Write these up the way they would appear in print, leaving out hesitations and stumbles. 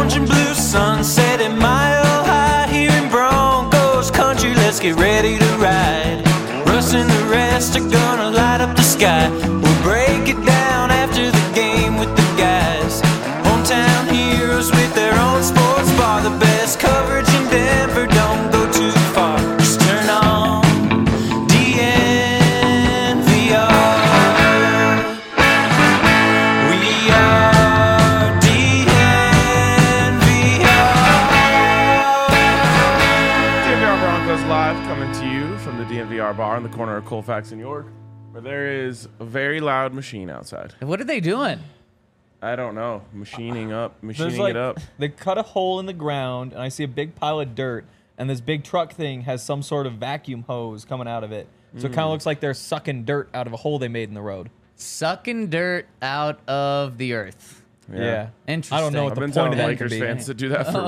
orange and blue sunset at Mile High here in Broncos country. Let's get ready to ride. Russ and the rest are gonna light up the sky. We'll break it down after the game with the guys. Hometown heroes with their own sports bar. The best coverage in Denver, don't go too far. Just turn on DNVR. We are DNVR Broncos Live, coming to you from the DNVR bar on the corner of Colfax and York, where there is a very loud machine outside. What are they doing? I don't know. Machining There's like, it up. they cut a hole in the ground, and I see a big pile of dirt, and this big truck thing has some sort of vacuum hose coming out of it. So it kind of looks like they're sucking dirt out of a hole they made in the road. Sucking dirt out of the earth. Yeah. Interesting. I don't know what I've the been point telling of that Lakers could be. fans to do that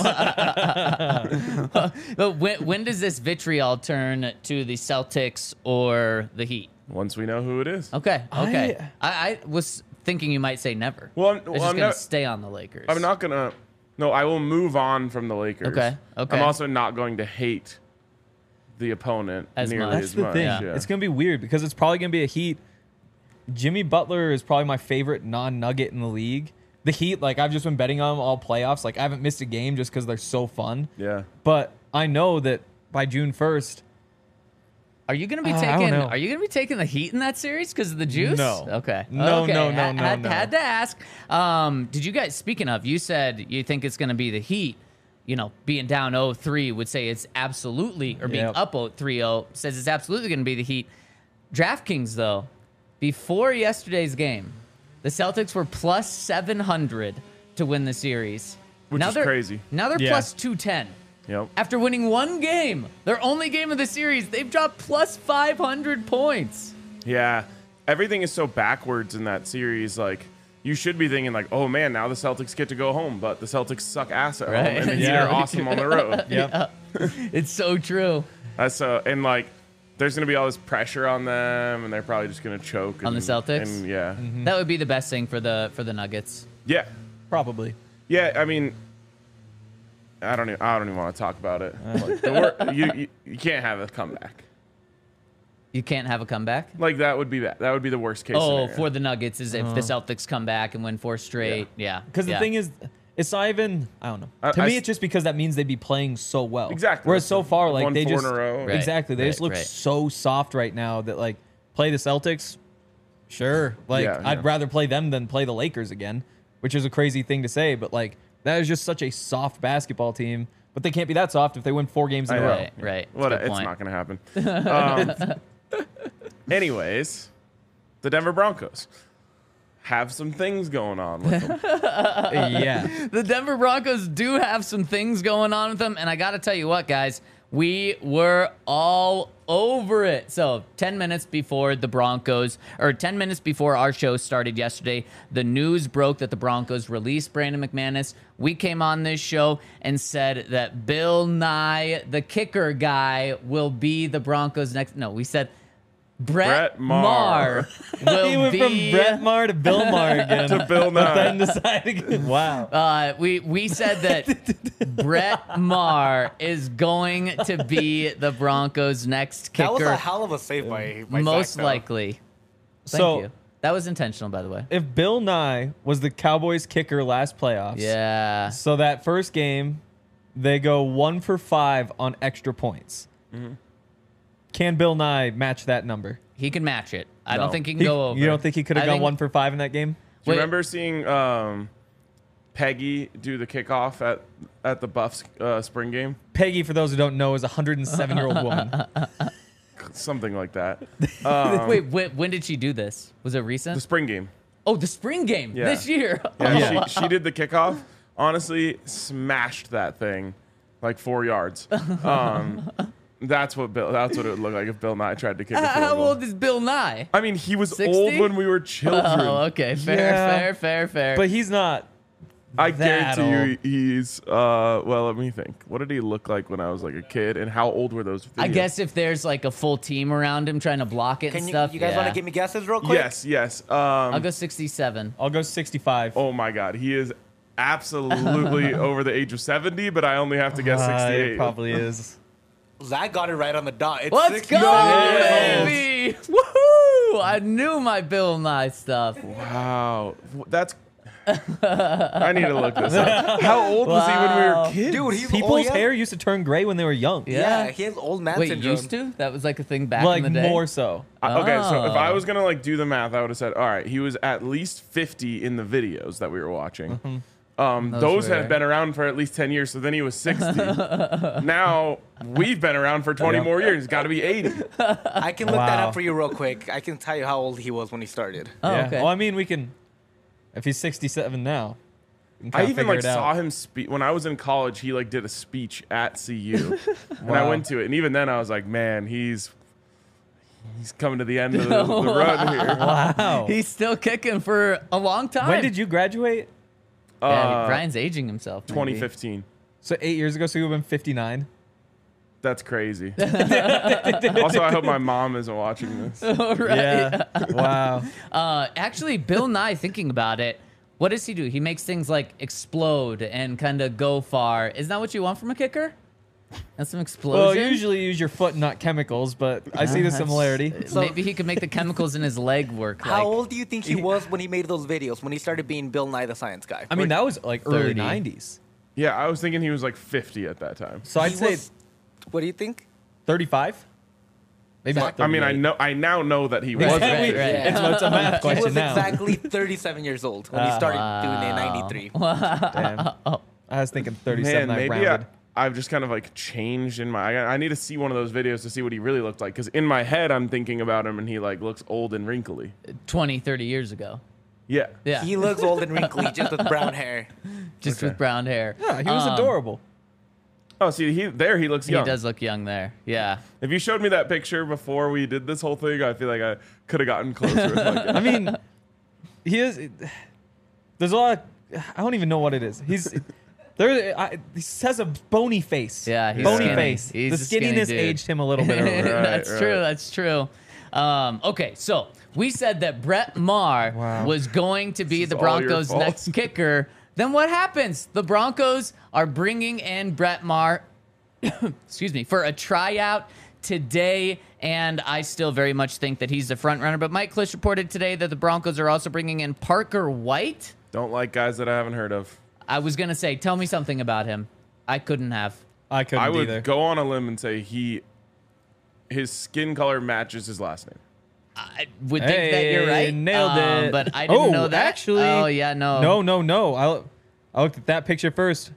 for weeks. But when does this vitriol turn to the Celtics or the Heat? Once we know who it is. Okay. I was thinking you might say never. Well, It's just going to stay on the Lakers. I'm not going to. No, I will move on from the Lakers. Okay. I'm also not going to hate the opponent As nearly much. That's as the much. thing. Yeah. It's going to be weird because it's probably going to be a Heat. Jimmy Butler is probably my favorite non-Nugget in the league. The Heat, like, I've just been betting on them all playoffs. Like, I haven't missed a game just because they're so fun. Yeah. But I know that by June 1st, Are you going to be I don't taking? know. Are you going to be taking the Heat in that series because of the juice? No. Okay. No, okay. no, no, Had no. to ask. Did you guys? Speaking of, you said you think it's going to be the Heat. You know, being down 0-3 would say it's absolutely, or being Yep. up 3-0 says it's absolutely going to be the Heat. DraftKings, though, before yesterday's game, the Celtics were plus 700 to win the series. Which is they're crazy. Now they're Yeah. plus 210. Yep. After winning one game, their only game of the series, they've dropped plus 500 points. Yeah. Everything is so backwards in that series. Like, you should be thinking, like, oh, man, now the Celtics get to go home, but the Celtics suck ass at Right. home, and the Heat Yeah. are awesome on the road. yep. It's so true. That's and like, there's gonna be all this pressure on them, and they're probably just gonna choke On the Celtics? And yeah, That would be the best thing for the Nuggets. yeah, Probably. yeah. I mean, I don't even want to talk about it. Like, you can't have a comeback. You can't have a comeback? Like, that would be bad. That would be the worst case. Oh, scenario. for the Nuggets is if the Celtics come back and win 4 straight. Yeah. Because the thing is, it's not even, I don't know. To me, it's just because that means they'd be playing so well. Exactly. Whereas so far, like, Won they 4 just. in a row. Right. Exactly. They just look right. so soft right now that, like, play the Celtics, sure. Like, Yeah, I'd yeah. rather play them than play the Lakers again, which is a crazy thing to say. But, like, that is just such a soft basketball team. But they can't be that soft if they win 4 games in a I know. row. Right. What? That's a good It's point. not gonna happen. Anyways, the Denver Broncos have some things going on with them. Yeah. The Denver Broncos do have some things going on with them, and I got to tell you what, guys, we were all over it. So 10 minutes before the Broncos, or 10 minutes before our show started yesterday, the news broke that the Broncos released Brandon McManus. We came on this show and said that Bill Nye, the kicker guy, will be the Broncos' next. No, we said Brett Maher He will went from be. Brett Maher to Bill Maher again. To Bill But then Nye. decided, wow. We said that Brett Maher is going to be the Broncos' next kicker. That was a hell of a save by most Zach, though. likely. Thank So- you. That was intentional, by the way. If Bill Nye was the Cowboys kicker last playoffs, Yeah. so that first game, they go 1 for 5 on extra points. Can Bill Nye match that number? He can match it. I No. don't think he can go over. You don't think he could have I gone think- 1 for 5 in that game? Do you Wait. remember seeing Peggy do the kickoff at the Buffs spring game? Peggy, for those who don't know, is a 107-year-old woman. Something like that. Wait, when did she do this? Was it recent? The spring game. Oh, the spring game Yeah. this year. Yeah, Yeah. She did the kickoff. Honestly, smashed that thing like 4 yards. That's what it would look like if Bill Nye tried to kick a field How goal. old is Bill Nye? I mean, he was 60? old when we were children. Oh, okay. Yeah. Fair. But he's not. I that guarantee old. you he's well, let me think. What did he look like when I was like a kid, and how old were those videos? I guess if there's like a full team around him trying to block it Can and you, stuff. you guys yeah. want to give me guesses real quick? Yes. I'll go 67. I'll go 65. Oh my God, he is absolutely over the age of 70, but I only have to guess 68. It probably is. Zach got it right on the dot. It's Let's 69 go, years old. baby! Woohoo! I knew my Bill Nye stuff. Wow. That's. I need to look this up. How old was he when we Wow. were kids? Dude, he's People's old. hair used to turn gray when they were young. Yeah, he has old man Wait, syndrome. used to? That was like a thing back Like in the day? more so. Okay, so if I Oh. was gonna like do the math, I would have said, all right, he was at least 50 in the videos that we were watching. Those were- had been around for at least 10 years, so then he was 60. Now we've been around for 20 more years. Got to be 80. I can look that Wow. up for you real quick. I can tell you how old he was when he started. Oh, Yeah. okay. Well, I mean, we can. If he's 67 now, we can I kinda even figure like it out. saw him speak when I was in college. He like did a speech at CU, and I went to it. And even then, I was like, man, he's coming to the end of the run here. Wow. He's still kicking for a long time. When did you graduate? Yeah, Brian's aging himself. maybe. 2015. So 8 years ago. So you would have been 59. That's crazy. Also, I hope my mom isn't watching this. Right. Yeah. Wow. Actually, Bill Nye, thinking about it, what does he do? He makes things like explode and kind of go far. Isn't that what you want from a kicker? That's some explosion. Well, usually use your foot, not chemicals, but I see the That's- similarity. Maybe he could make the chemicals in his leg work. How like, old do you think he was when he made those videos? When he started being Bill Nye the Science Guy? I mean, that was like early 30. 90s. Yeah, I was thinking he was like 50 at that time. So I'd He say was- What do you think? 35. Maybe not I mean, 38. I now know that he Right, was. right, 50. right. It's a math He question was now. exactly 37 years old when he started doing it in 93. Damn. I was thinking 37. Man, I maybe rounded. I've just kind of like changed in my. I need to see one of those videos to see what he really looked like. Because in my head, I'm thinking about him and he like looks old and wrinkly. 20, 30 years ago. Yeah. Yeah. He looks old and wrinkly just with brown hair. Just Okay. with brown hair. Yeah, he was Um, adorable. Oh, see, he looks He young. does look young there. Yeah. If you showed me that picture before we did this whole thing, I feel like I could have gotten closer. with my I mean, he is. There's a lot. I don't even know what it is. He has a bony face. Yeah, he's bony skinny. face. He's The a skinny skinniness dude. aged him a little bit. Earlier. Right, That's right. true. That's true. Okay, so we said that Brett Maher Wow. was going to be This the is all your Broncos' fault. next kicker. Then what happens? The Broncos are bringing in Brett Maher, excuse me, for a tryout today, and I still very much think that he's the front runner. But Mike Klisch reported today that the Broncos are also bringing in Parker White. Don't like guys that I haven't heard of. I was gonna say, tell me something about him. I couldn't have. I couldn't I would either. go on a limb and say his skin color matches his last name. I would think that you're Hey, right. nailed it. But I didn't know that. Actually, Oh yeah, no. No. I looked at that picture first.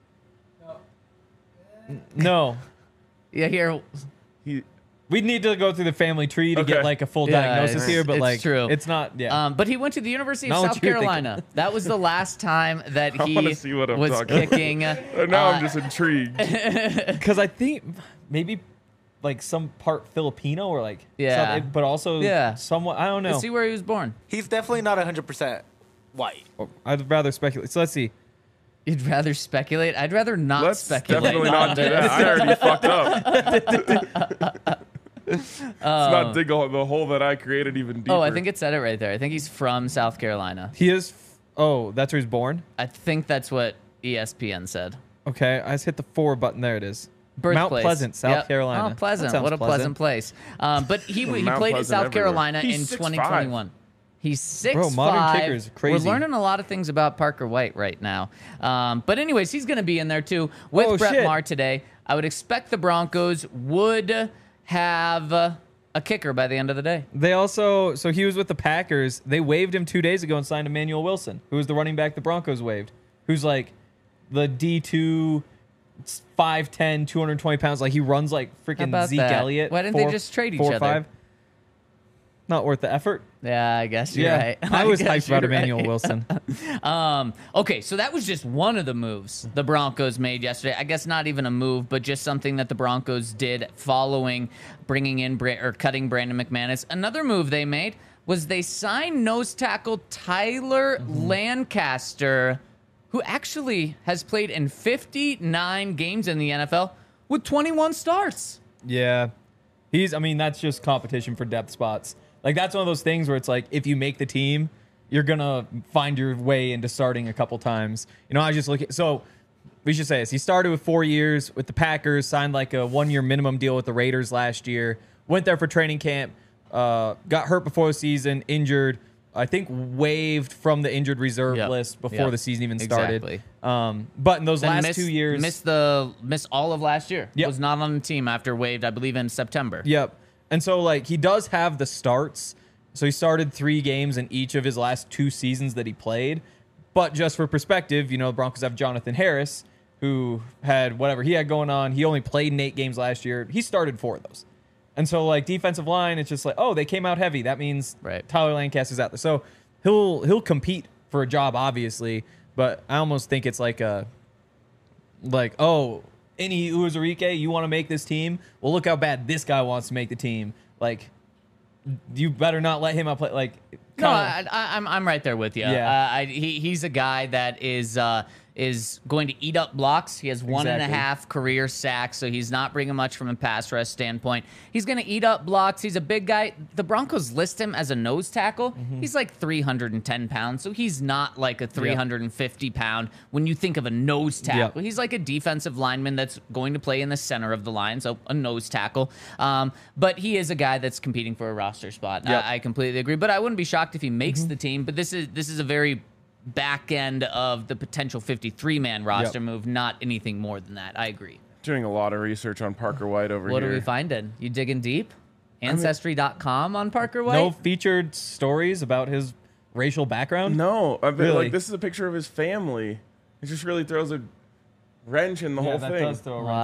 No. Yeah, here. He We need to go through the family tree to Okay. get like a full Yeah, diagnosis it's- here, but it's like true. it's not. Yeah. But he went to the University of Not what South you're thinking. Carolina. That was the last time that I he wanna see what I'm was talking about. kicking. now I'm just intrigued. Because I think maybe like some part Filipino or like Yeah. but also Yeah. somewhat. I don't know. Let's see where he was born. He's definitely not 100% white. I'd rather speculate. So let's see. You'd rather speculate? I'd rather not Let's speculate. definitely on not do this. that. I already fucked up. Let's not dig the hole that I created even deeper. Oh, I think it said it right there. I think he's from South Carolina. He is. Oh, that's where he's born. I think that's what E ESPN said. Okay, I just hit the forward button. There it is. Birthplace. Mount Pleasant, South Yep. Carolina. Oh, Pleasant. That sounds What a pleasant place. But he Mount played at Pleasant South everywhere. Carolina in He's 6'5". 2021. He's 6'5". Bro, modern kickers, crazy. We're learning a lot of things about Parker White right now. But anyways, he's going to be in there too with Oh, Brett shit. Maher today. I would expect the Broncos would have a kicker by the end of the day. They also, so he was with the Packers. They waived him 2 days ago and signed Emmanuel Wilson, who was the running back the Broncos waived, who's like the D2, 5'10", 220 pounds. Like he runs like How freaking about Zeke that? Elliott. Why didn't they just trade each other? 4'5". Not worth the effort. Yeah, I guess you're right. I was guess hyped about you're Emmanuel right. Wilson. Okay, so that was just one of the moves the Broncos made yesterday. I guess not even a move, but just something that the Broncos did following bringing in cutting Brandon McManus. Another move they made was they signed nose tackle Tyler Lancaster, who actually has played in 59 games in the NFL with 21 starts. Yeah. I mean, that's just competition for depth spots. Like, that's one of those things where it's like, if you make the team, you're gonna find your way into starting a couple times. I was just looking. So we should say this: he started with 4 years with the Packers, signed like a 1-year minimum deal with the Raiders last year. Went there for training camp, got hurt before the season, injured. I think waived from the injured reserve list before the season even started. Exactly. But in those Then last 2 years, missed all of last year. Yep. Was not on the team after waived, I believe, in September. Yep. And so, like, he does have the starts. So he started 3 games in each of his last 2 seasons that he played. But just for perspective, the Broncos have Jonathan Harris, who had whatever he had going on. He only played in 8 games last year. He started 4 of those. And so, like, defensive line, it's just like, oh, they came out heavy. That means Tyler Lancaster's out there. So he'll compete for a job, obviously. But I almost think it's like any Uwazurike, you want to make this team? Well, look how bad this guy wants to make the team. Like, you better not let him outplay. Like, no, I'm right there with you. Yeah. He's a guy that is going to eat up blocks. He has 1.5 career sacks, so he's not bringing much from a pass rush standpoint. He's going to eat up blocks. He's a big guy. The Broncos list him as a nose tackle. He's like 310 pounds, so he's not like a 350 pound when you think of a nose tackle. He's like a defensive lineman that's going to play in the center of the line, so a nose tackle. But he is a guy that's competing for a roster spot. I completely agree, but I wouldn't be shocked if he makes the team. But this is a very back end of the potential 53-man roster move, not anything more than that. I agree. Doing a lot of research on Parker White over here. What are we finding? You digging deep? Ancestry.com on Parker White? No featured stories about his racial background? No. Really? Like, this is a picture of his family. It just really throws a wrench in the whole that thing. does throw a wrench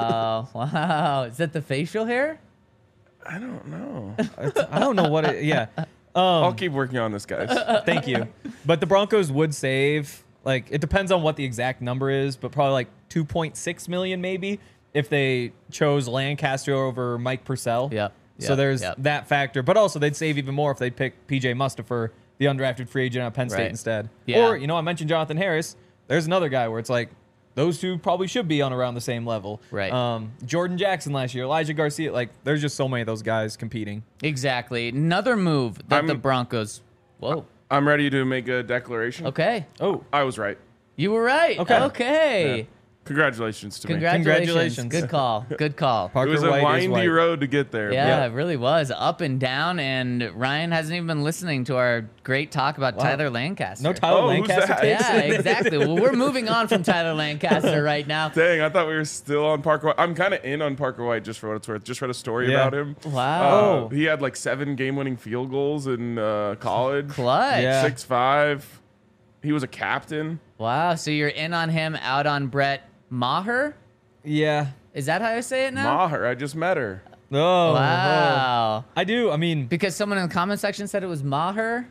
Wow. Is that the facial hair? I don't know. I don't know what it... Yeah. I'll keep working on this, guys. Thank you. But the Broncos would save, like, it depends on what the exact number is, but probably like $2.6 million maybe if they chose Lancaster over Mike Purcell. So there's that factor. But also they'd save even more if they'd pick PJ Mustafa, the undrafted free agent at Penn State instead. Or, I mentioned Jonathan Harris. There's another guy where it's like, those two probably should be on around the same level. Jordan Jackson last year, Elijah Garcia. Like, there's just so many of those guys competing. Exactly. Another move that the Broncos... Whoa. I'm ready to make a declaration. Okay. Oh. I was right. You were right. Okay. Yeah. Congratulations to me. Congratulations. Good call. Good call. It was a windy road to get there. Yeah, it really was. Up and down, and Ryan hasn't even been listening to our great talk about Tyler Lancaster. No Tyler Lancaster takes Yeah, exactly. Well, we're moving on from Tyler Lancaster right now. Dang, I thought we were still on Parker White. I'm kind of in on Parker White just for what it's worth. Just read a story about him. Wow. He had like 7 game-winning field goals in college. Clutch. Yeah. 6'5". He was a captain. Wow. So you're in on him, out on Brett Maher? Yeah. Is that how I say it now? Maher, I just met her. Oh. Wow. I do. I mean, Because someone in the comment section said it was Maher?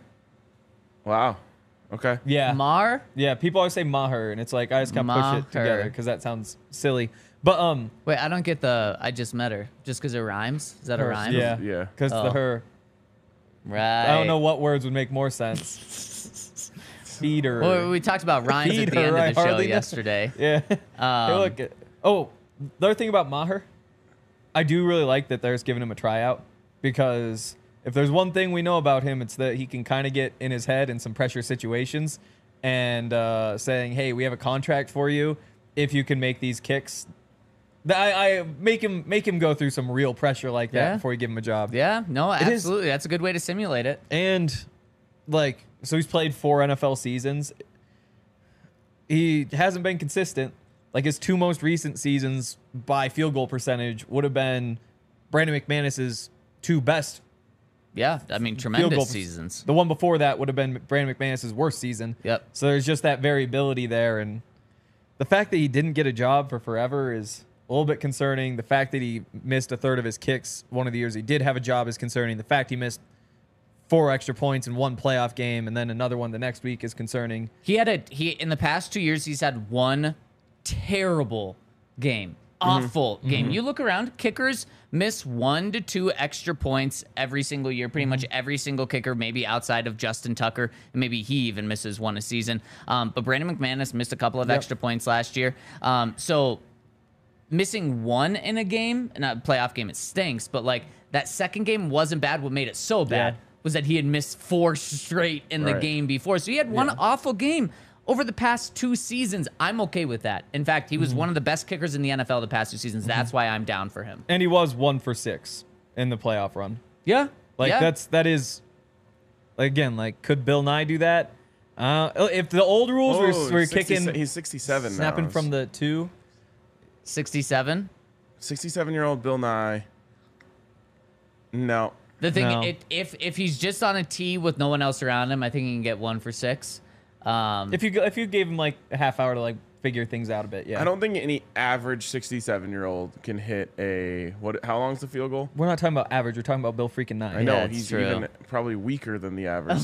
Wow. Okay. yeah. Mar? Yeah, people always say Maher, and it's like, I just kind of push it Maher. together because that sounds silly. But, Wait, I don't get the I just met her. Just because it rhymes? Is that a rhyme? yeah. Yeah. Because Oh. the her. Right. I don't know what words would make more sense. Feeder. Well, we talked about rhymes at the Feeder, end I of the show hardly know. yesterday. Yeah. Hey, look. The other thing about Maher, I do really like that they're just giving him a tryout because if there's one thing we know about him, it's that he can kind of get in his head in some pressure situations and saying, hey, we have a contract for you if you can make these kicks. I make him go through some real pressure like that Yeah. before you give him a job. Yeah, no, is- absolutely. That's a good way to simulate it. And like, so he's played 4 NFL seasons. He hasn't been consistent. Like his 2 most recent seasons by field goal percentage would have been Brandon McManus's 2 best. Yeah, I mean, goal tremendous per- seasons. The one before that would have been Brandon McManus's worst season. Yep. So there's just that variability there, and the fact that he didn't get a job for forever is a little bit concerning. The fact that he missed a third of his kicks one of the years he did have a job is concerning. The fact he missed 4 extra points in 1 playoff game and then another one the next week is concerning. He in the past 2 years, he's had 1 terrible game. Awful game. You look around, kickers miss 1 to 2 extra points every single year. Pretty much every single kicker, maybe outside of Justin Tucker, and maybe he even misses 1 a season. But Brandon McManus missed a couple of extra points last year. So missing 1 in a game, not a playoff game, it stinks. But like that second game wasn't bad. What made it so bad was that he had missed 4 straight in the Right. game before. So he had one Yeah. awful game over the past 2 seasons. I'm okay with that. In fact, he was one of the best kickers in the NFL the past 2 seasons. That's why I'm down for him. And he was 1 for 6 in the playoff run. Yeah. Like yeah. that is again, like, could Bill Nye do that? If the old rules were kicking, He's 67 snapping now. from the 2. 67. 67-year-old Bill Nye. No. The thing, No. if he's just on a tee with no one else around him, I think he can get 1 for 6. If you gave him like a half hour to like figure things out a bit, yeah. I don't think any average 67-year-old can hit a how long's the field goal? We're not talking about average. We're talking about Bill freaking Nye. I know Yeah, it's he's true. even probably weaker than the average.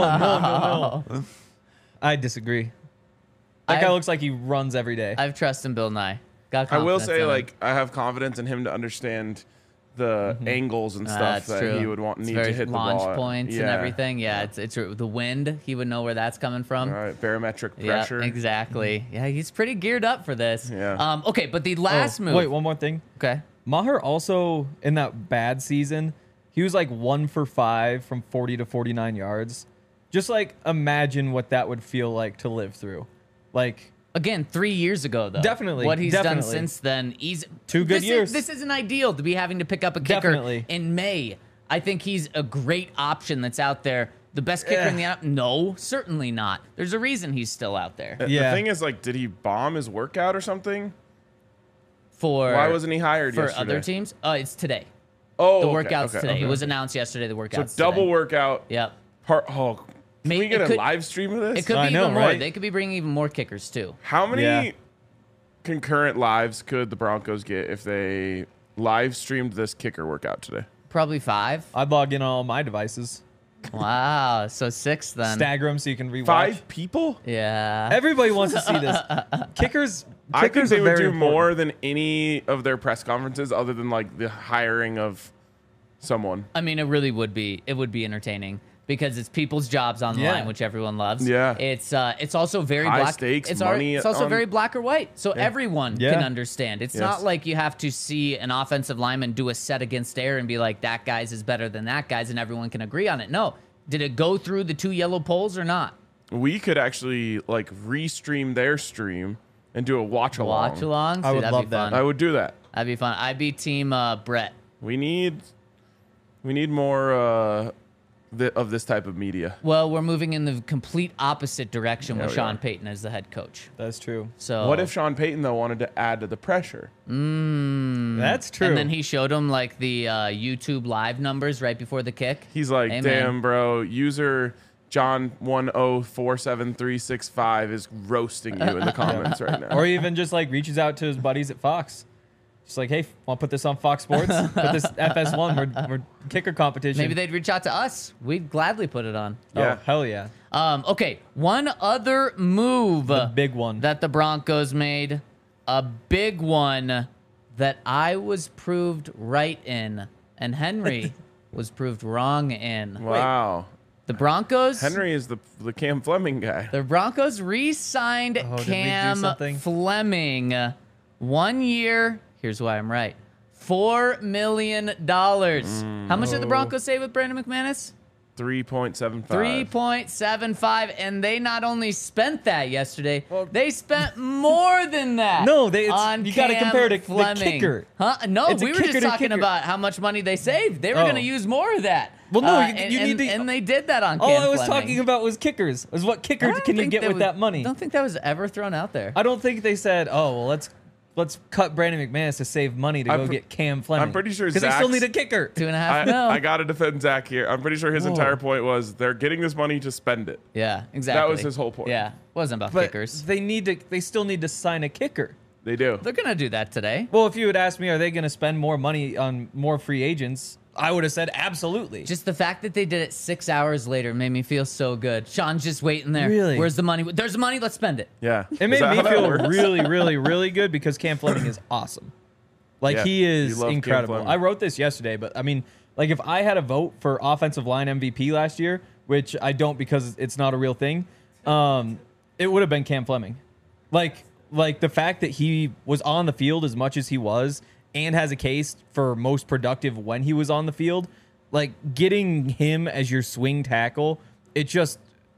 Oh no. I disagree. That guy I've- looks like he runs every day. I've trust in Bill Nye. Got I will confidence say, in him. like, I have confidence in him to understand the angles and stuff That's that true. he would It's need very to hit the launch ball at. points and Yeah. everything. Yeah, it's the wind. He would know where that's coming from. All right, barometric Yeah, pressure. exactly. Yeah, he's pretty geared up for this. Yeah. Okay, but the last move. Wait, one more thing. Okay. Maher also, in that bad season, he was like 1 for 5 from 40 to 49 yards. Just like imagine what that would feel like to live through. Like, Again, 3 years ago, though. Definitely, What he's done definitely. since then. He's 2 good years. This isn't ideal to be having to pick up a kicker Definitely. in May. I think he's a great option that's out there. The best kicker in the app? No, certainly not. There's a reason he's still out there. Yeah. The thing is, like, did he bomb his workout or something? For Why wasn't he hired for yesterday? other teams? It's today. Oh, The okay, workout's okay, today. okay. It was announced yesterday. The So workout's double today. workout. Yep. Can Maybe we get it a could- live stream of this? It could I be know, even more. right? They could be bringing even more kickers too. How many Yeah. concurrent lives could the Broncos get if they live streamed this kicker workout today? Probably 5. I'd log in on all my devices, Wow. So 6 then. stagger them so you can rewatch. 5 people? Yeah. Everybody wants to see this. Kickers I think they are would very do important. more than any of their press conferences other than like the hiring of someone. I mean, it really would be. It would be entertaining because it's people's jobs on the Yeah. line, which everyone loves. Yeah. It's also very High black. stakes, it's money It's also on- very black or white, so everyone Yeah. can understand. It's Yes. not like you have to see an offensive lineman do a set against air and be like, that guy's is better than that guy's, and everyone can agree on it. No. Did it go through the 2 yellow poles or not? We could actually like restream their stream and do a watch along. Watch along. I would that'd love be that. fun. I would do that. That'd be fun. I'd be team Brett. We need more of this type of media. Well, we're moving in the complete opposite direction with we Sean are. Payton as the head coach. That's true. So What if Sean Payton though wanted to add to the pressure? That's true. And then he showed him like the YouTube live numbers right before the kick. He's like, Hey, damn, man. bro, user John 1047365 is roasting you in the comments right now. or even just like reaches out to his buddies at Fox. Just like, hey, want to put this on Fox Sports? Put this FS1, we're kicker competition. Maybe they'd reach out to us. We'd gladly put it on. Yeah. Oh, hell yeah. Okay, one other move The big one. that the Broncos made, a big one that I was proved right in, and Henry was proved wrong in. Wow. The Broncos. Henry is the Cam Fleming guy. The Broncos re-signed Oh, did we do Cam something? Fleming. 1 year. Here's why I'm right. $4 million. How much did the Broncos say with Brandon McManus? 3.75. 3.75, and they not only spent that yesterday, they spent more than that. No, on you got to Cam compare to the Fleming. kicker. Huh? No, It's a we were just kicker to talking kicker. about how much money they saved. They were Oh. going to use more of that. Well, no, and, you need to- and they did that on All Cam I was Fleming. talking about was kickers. Was what I kicker don't can you think get with that money? I don't think that was ever thrown out there. I don't think they said, oh, well, let's cut Brandon McManus to save money to I'm go pr- get Cam Fleming. I'm pretty sure because they still Zach's- need a kicker. 2.5 I, mil. I got to defend Zach here. I'm pretty sure his entire point was they're getting this money to spend it. Yeah, exactly. was his whole point. Yeah, wasn't about But kickers. they still need to sign a kicker. They do. They're gonna do that today. Well, if you had asked me, are they going to spend more money on more free agents? I would have said absolutely. Just the fact that they did it 6 hours later made me feel so good. Sean's just waiting there. Really? Where's the money? There's the money. Let's spend it. Yeah. It made Is that me how that feel works? really, really, really good because Cam Fleming is awesome. Like, Yeah, he you is love Cam incredible. Fleming. I wrote this yesterday, but I mean, like, if I had a vote for offensive line MVP last year, which I don't because it's not a real thing, it would have been Cam Fleming. Like the fact that he was on the field as much as he was and has a case for most productive when he was on the field, like getting him as your swing tackle, it just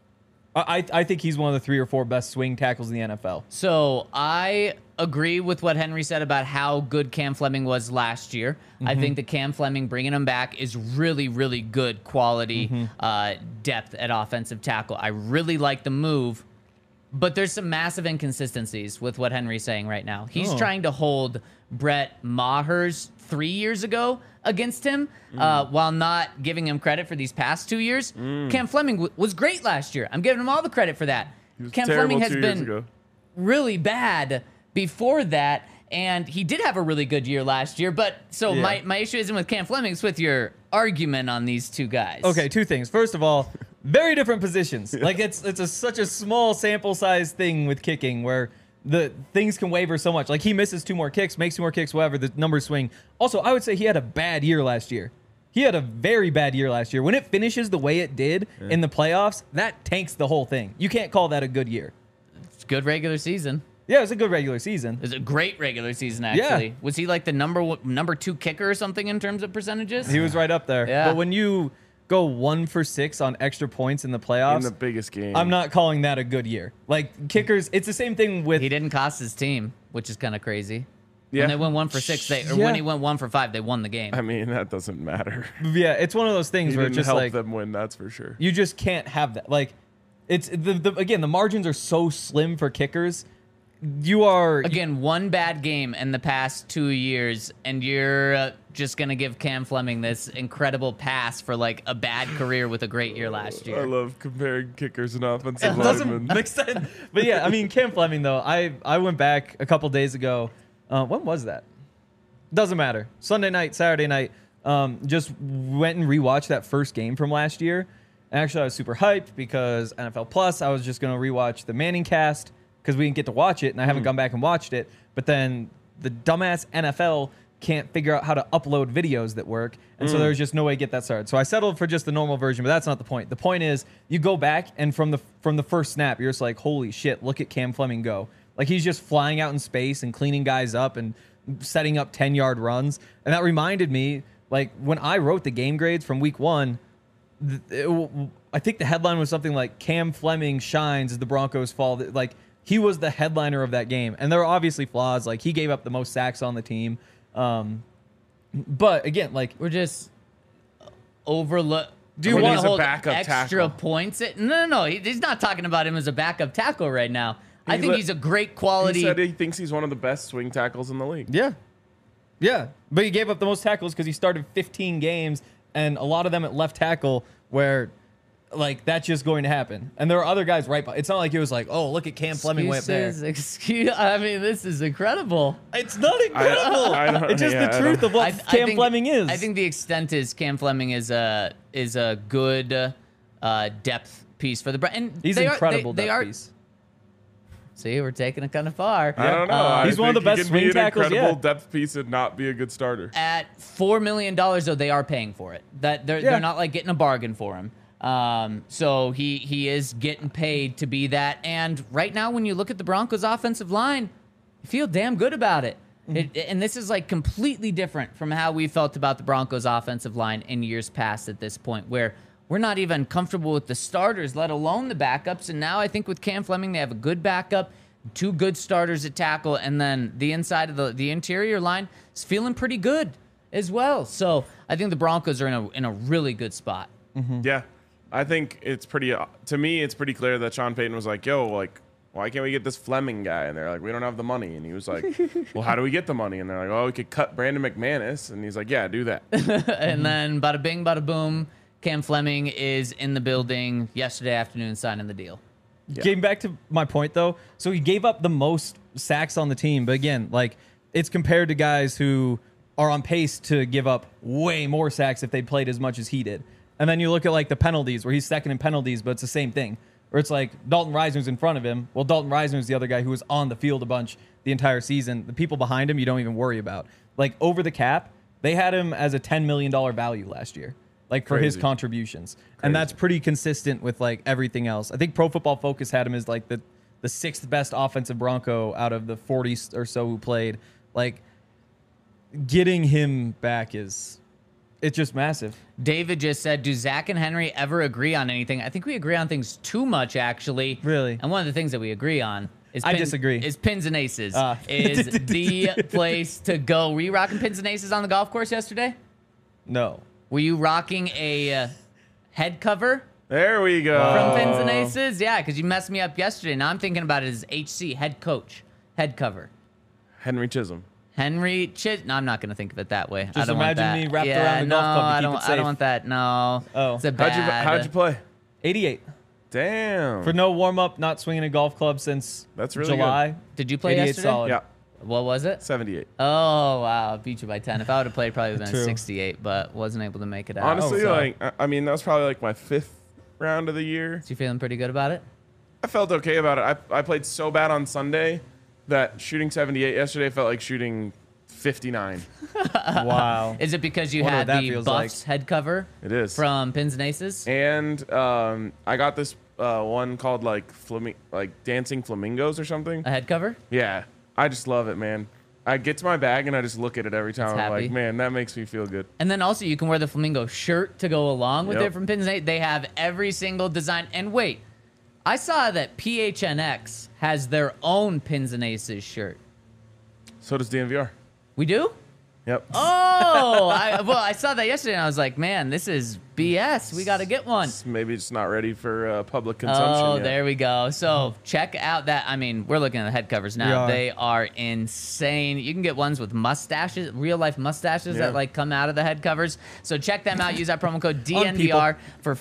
I think he's one of the 3 or 4 best swing tackles in the NFL. So I agree with what Henry said about how good Cam Fleming was last year. I think that Cam Fleming bringing him back is really, really good quality depth at offensive tackle. I really like the move, but there's some massive inconsistencies with what Henry's saying right now. He's trying to hold Brett Maher's 3 years ago against him while not giving him credit for these past 2 years. Cam Fleming was great last year. I'm giving him all the credit for that. Cam Fleming has been really bad before that, and he did have a really good year last year. But so my issue isn't with Cam Fleming, it's with your argument on these two guys. Okay, 2 things. First of all, very different positions. Like it's such a small sample size thing with kicking where the things can waver so much. Like he misses 2 more kicks, makes 2 more kicks, whatever, the numbers swing. Also, I would say he had a bad year last year. He had a very bad year last year. When it finishes the way it did in the playoffs, that tanks the whole thing. You can't call that a good year. It's a good regular season. Yeah, it was a good regular season. It was a great regular season, actually. Yeah. Was he like the number 2 kicker or something in terms of percentages? He was right up there. Yeah. But when you go 1 for 6 on extra points in the playoffs, in the biggest game, I'm not calling that a good year. Like kickers, it's the same thing with. He didn't cost his team, which is kind of crazy. Yeah. When they went 1 for 6, when he went 1 for 5, they won the game. I mean, that doesn't matter. Yeah, it's one of those things He where didn't it's just help like them win, that's for sure. you just can't have that. Like, it's again, the margins are so slim for kickers. You are Again, 1 bad game in the past 2 years, and you're just going to give Cam Fleming this incredible pass for like a bad career with a great year last I year. love comparing kickers and offensive It doesn't linemen. make sense. But yeah, I mean, Cam Fleming though. I went back a couple days ago. When was that? Doesn't matter. Sunday night, Saturday night. Just went and rewatched that first game from last year. Actually, I was super hyped because NFL Plus. I was just gonna rewatch the Manning cast because we didn't get to watch it, and I haven't gone back and watched it. But then the dumbass NFL can't figure out how to upload videos that work, and so there's just no way to get that started. So I settled for just the normal version, but that's not the point. The point is, you go back, and from the first snap, you're just like, holy shit, look at Cam Fleming go. Like he's just flying out in space and cleaning guys up and setting up 10-yard runs. And that reminded me, like when I wrote the game grades from week 1, I think the headline was something like Cam Fleming shines as the Broncos fall. Like he was the headliner of that game. And there are obviously flaws. Like he gave up the most sacks on the team. But again, like We're just overlook. Do you we're want gonna him as a hold backup extra tackle? points? No. He's not talking about him as a backup tackle right now. I think let- he's a great quality. He said he thinks he's one of the best swing tackles in the league. yeah. Yeah. But he gave up the most tackles because he started 15 games and a lot of them at left tackle where like that's just going to happen. And there are other guys right by. It's not like it was like, oh, look at Cam Fleming way up there. I mean, this is incredible. It's not incredible. I don't- it's just yeah, the I truth don't- of what Cam think, Fleming is. I think the extent is Cam Fleming is a good depth piece for the and he's they incredible. Are, they depth are. piece. See, we're taking it kind of far. I don't know. He's I one of the think he best can be swing an tackles, incredible yeah. depth piece and not be a good starter. At $4 million, though, they are paying for it. That they're not like getting a bargain for him. So he is getting paid to be that. And right now, when you look at the Broncos' offensive line, you feel damn good about it. And this is like completely different from how we felt about the Broncos' offensive line in years past at this point, where we're not even comfortable with the starters, let alone the backups. And now I think with Cam Fleming, they have a good backup, 2 good starters at tackle, and then the inside of the interior line is feeling pretty good as well. So I think the Broncos are in a really good spot. Yeah. I think it's pretty, to me, it's pretty clear that Sean Payton was like, yo, like, why can't we get this Fleming guy? And they're like, we don't have the money. And he was like, well, how do we get the money? And they're like, oh, we could cut Brandon McManus. And he's like, yeah, do that. And then bada bing, bada boom, Cam Fleming is in the building yesterday afternoon signing the deal. Getting back to my point though, so he gave up the most sacks on the team, but again, like it's compared to guys who are on pace to give up way more sacks if they played as much as he did. And then you look at like the penalties where he's second in penalties, but it's the same thing. Or it's like Dalton Risner's in front of him. Well, Dalton Risner's the other guy who was on the field a bunch the entire season. The people behind him you don't even worry about. Like over the cap, they had him as a $10 million value last year. Like for his Crazy. contributions. And that's pretty consistent with like everything else. I think Pro Football Focus had him as like the 6th best offensive Bronco out of the 40 or so who played. Like getting him back is It's just massive. David just said, do Zach and Henry ever agree on anything? I think we agree on things too much, actually. Really? And one of the things that we agree on is I disagree. Is pins and aces. Is the place to go. Were you rocking pins and aces on the golf course yesterday? No. Were you rocking a head cover There we go. from Pins and Aces? Yeah, because you messed me up yesterday. Now I'm thinking about it as HC, head coach, head cover. Henry Chisholm. Henry No, I'm not going to think of it that way. I Just don't want imagine that. me wrapped yeah, around the no, golf club to I keep don't, it I safe. don't want that. No. Oh. It's a bad. How'd you play? 88. Damn. For no warm up, not swinging a golf club since That's really July. Did you play 88 yesterday? solid. Yeah. What was it? 78. Oh, wow. Beat you by 10. If I would have played, probably would have been True. 68, but wasn't able to make it out. Honestly, so- like, I mean, that was probably like my 5th round of the year. So you feeling pretty good about it? I felt okay about it. I played so bad on Sunday that shooting 78 yesterday felt like shooting 59. Wow. Is it because you Wonder had what that the feels Buffs head cover It is. from Pins and Aces? And I got this one called like Dancing Flamingos or something. A head cover? Yeah. I just love it, man. I get to my bag and I just look at it every time. It's I'm happy. like, man, that makes me feel good. And then also you can wear the flamingo shirt to go along with Yep. it from Pins and Aces. They have every single design. And wait, I saw that PHNX has their own Pins and Aces shirt. So does DNVR. We do? Yep. Oh, I saw that yesterday and I was like, man, this is BS. We got to get one. Maybe it's not ready for public consumption Oh, yet. there we go. So check out that. I mean, we're looking at the head covers We now. are. They are insane. You can get ones with mustaches, real life mustaches Yeah. that like come out of the head covers. So check them out. Use that promo code DNVR for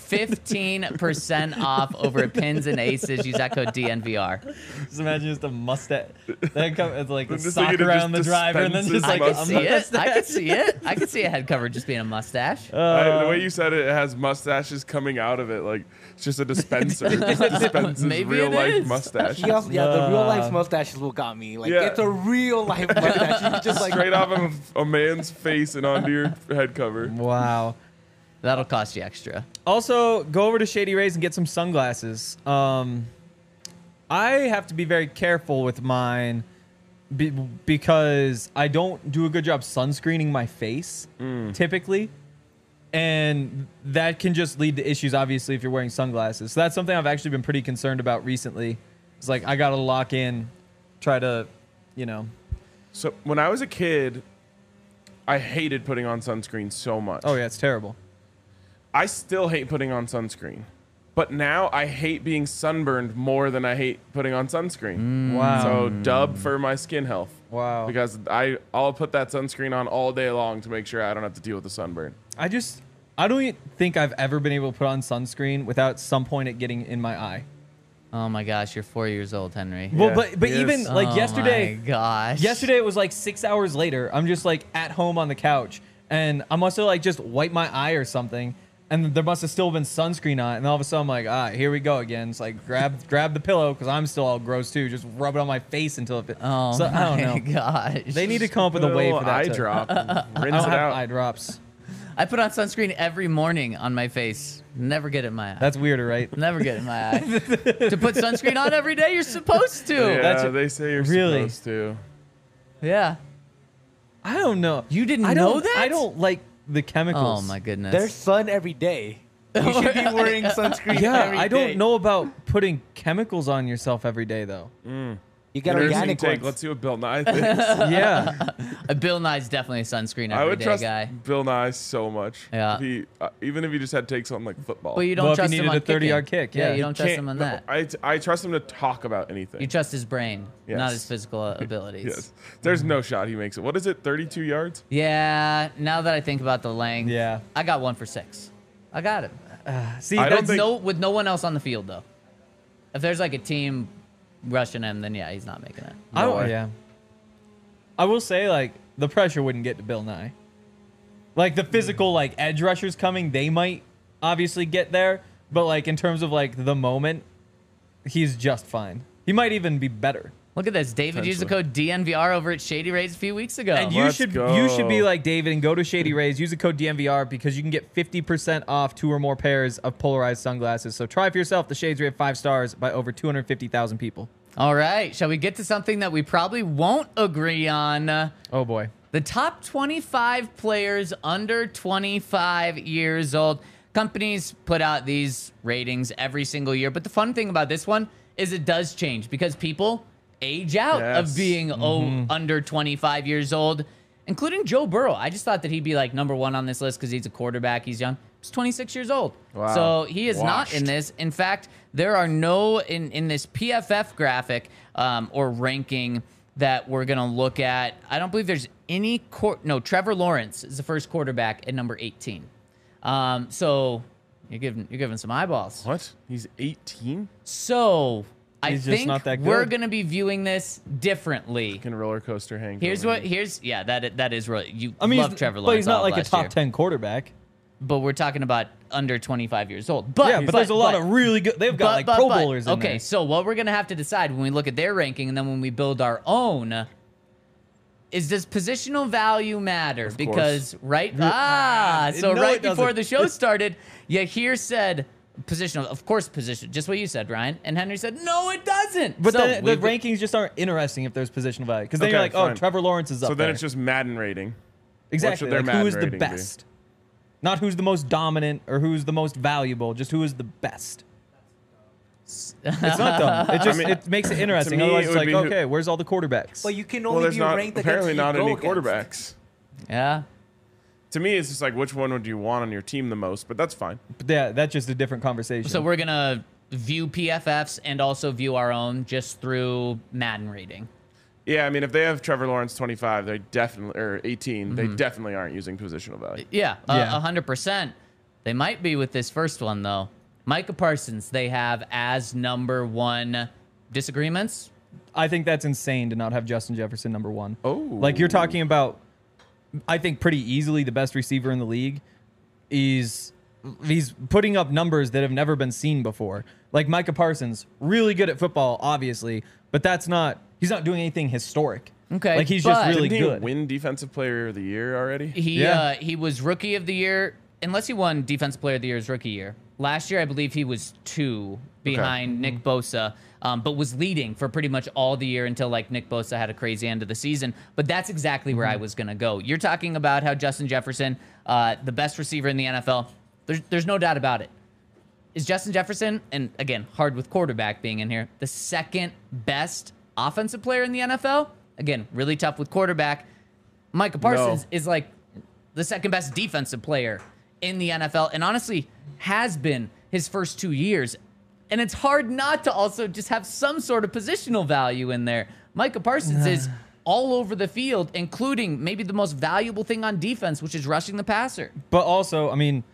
15% off over at Pins and Aces. Use that code DNVR. Just imagine just a mustache. That it's like a Just sock like it around the just driver and then dispenses just like I a could see it. mustache. I could see it. I could see a head cover just being a mustache. The way you said it, it has mustaches coming out of it. Like, it's just a dispenser. It just dispenses Maybe real it life is. mustache. Yeah, the real life mustache is what got me. Like, Yeah. it's a real life mustache. You just like Straight off of a man's face and onto your head cover. Wow. That'll cost you extra. Also, go over to Shady Rays and get some sunglasses. I have to be very careful with mine because I don't do a good job sunscreening my face typically. And that can just lead to issues, obviously, if you're wearing sunglasses. So that's something I've actually been pretty concerned about recently. It's like, I got to lock in, try to, you know. So when I was a kid, I hated putting on sunscreen so much. Oh, yeah, it's terrible. I still hate putting on sunscreen. But now I hate being sunburned more than I hate putting on sunscreen. Wow. So dub for my skin health. Wow. Because I'll put that sunscreen on all day long to make sure I don't have to deal with the sunburn. I don't think I've ever been able to put on sunscreen without some point it getting in my eye. Oh my gosh, you're 4 years old, Henry. Well, Yeah, but he even is. like Oh yesterday, my gosh. yesterday it was like 6 hours later. I'm just like at home on the couch, and I must have like just wiped my eye or something, and there must have still been sunscreen on it. And all of a sudden, I'm like, here we go again. It's like grab the pillow because I'm still all gross too. Just rub it on my face until it. Oh So, I my don't know. gosh. They need to come up with Put a way little for that. eye to, drop. I Rinse don't it have out. eye drops. I put on sunscreen every morning on my face. Never get it in my eye. That's weirder, right? Never get it in my eye. To put sunscreen on every day, you're supposed to. Yeah, That's- they say you're really? supposed to. Yeah. I don't know. You didn't I know don't, that? I don't like the chemicals. Oh my goodness. there's sun every day. You should be wearing sunscreen Yeah, every I day. don't know about putting chemicals on yourself every day, though. You get Interesting organic take. ones. Let's see what Bill Nye thinks. Yeah. Bill Nye's definitely a sunscreen I every would day trust guy. Bill Nye so much. Yeah. If he, even if he just had takes on like football. But you don't Well, if he trust him needed on a 30-yard kicking. kick, yeah. you don't trust Can't- him on no, that. I trust him to talk about anything. You trust his brain, Yes. not his physical abilities. Yes. There's no shot he makes it. What is it? 32 yards? Yeah, now that I think about the length, Yeah. I got 1 for 6. I got it. See, I don't that's think- With no one else on the field though. If there's like a team rushing him, then yeah, he's not making it. I No don't, way. yeah. I will say, like, the pressure wouldn't get to Bill Nye. Like, the physical, like, edge rushers coming, they might obviously get there. But, like, in terms of, like, the moment, he's just fine. He might even be better. Look at this. David used the code DNVR over at Shady Rays a few weeks ago. And you Let's should go. be like David and go to Shady Rays, use the code DNVR because you can get 50% off 2 or more pairs of polarized sunglasses. So try for yourself. The shades rate 5 stars by over 250,000 people. All right. Shall we get to something that we probably won't agree on? Oh boy. The top 25 players under 25 years old. Companies put out these ratings every single year, but the fun thing about this one is it does change because people age out of being under 25 years old, including Joe Burrow. I just thought that he'd be like number one on this list because he's a quarterback. He's young. He's 26 years old. Wow. So he is not Washed. in this. In fact, there are no, in this PFF graphic or ranking that we're going to look at, I don't believe there's any, Trevor Lawrence is the first quarterback at number 18. So you're giving some eyeballs. What? He's 18? So I He's just think not that we're good. going to be viewing this differently. Can roller coaster hang. That is really, you I mean, love Trevor Lawrence. but he's not all like a last top year. 10 quarterback. But we're talking about under 25 years old. But But there's a lot of really good. They've got Pro Bowlers in okay, there. so what we're gonna have to decide when we look at their ranking and then when we build our own is, does positional value matter? Of Because course. right No, right it before doesn't. the show started, you here said positional, of course position, just what you said, Ryan, and Henry said no, it doesn't. But So the we- rankings just aren't interesting if there's positional value. Because then Okay, you're like, oh, fine. Trevor Lawrence is up So then there. it's just Madden rating. exactly. what should their Like, who Madden is the rating be? best? Not who's the most dominant or who's the most valuable. Just who is the best. It's not dumb. It just it makes it interesting. me, Otherwise, it it's would like, be who- okay, where's all the quarterbacks? But you can Well, only there's be not ranked against apparently who not you go any against. quarterbacks. yeah. To me, it's just like which one would you want on your team the most, but that's fine. But yeah, that's just a different conversation. So we're gonna view PFFs and also view our own just through Madden rating. Yeah, I mean, if they have Trevor Lawrence 25, they definitely, or 18, they definitely aren't using positional value. Yeah, Yeah. 100%. They might be with this first one, though. Micah Parsons, they have as number one. Disagreements? I think that's insane to not have Justin Jefferson number one. Oh. Like you're talking about, I think pretty easily the best receiver in the league. He's putting up numbers that have never been seen before. Like Micah Parsons, really good at football, obviously, but he's not doing anything historic. Okay, Like he's but- just really Didn't he good. win Defensive Player of the Year already? He was Rookie of the Year, unless he won Defensive Player of the Year his rookie year. Last year, I believe he was 2 behind Nick Bosa, but was leading for pretty much all the year until like Nick Bosa had a crazy end of the season. But that's exactly where I was going to go. You're talking about how Justin Jefferson, the best receiver in the NFL, there's no doubt about it. Is Justin Jefferson, and again, hard with quarterback being in here, the second best offensive player in the NFL? Again, really tough with quarterback. Micah Parsons is like the second best defensive player in the NFL, and honestly has been his first 2 years. And it's hard not to also just have some sort of positional value in there. Micah Parsons is all over the field, including maybe the most valuable thing on defense, which is rushing the passer. But also, I mean,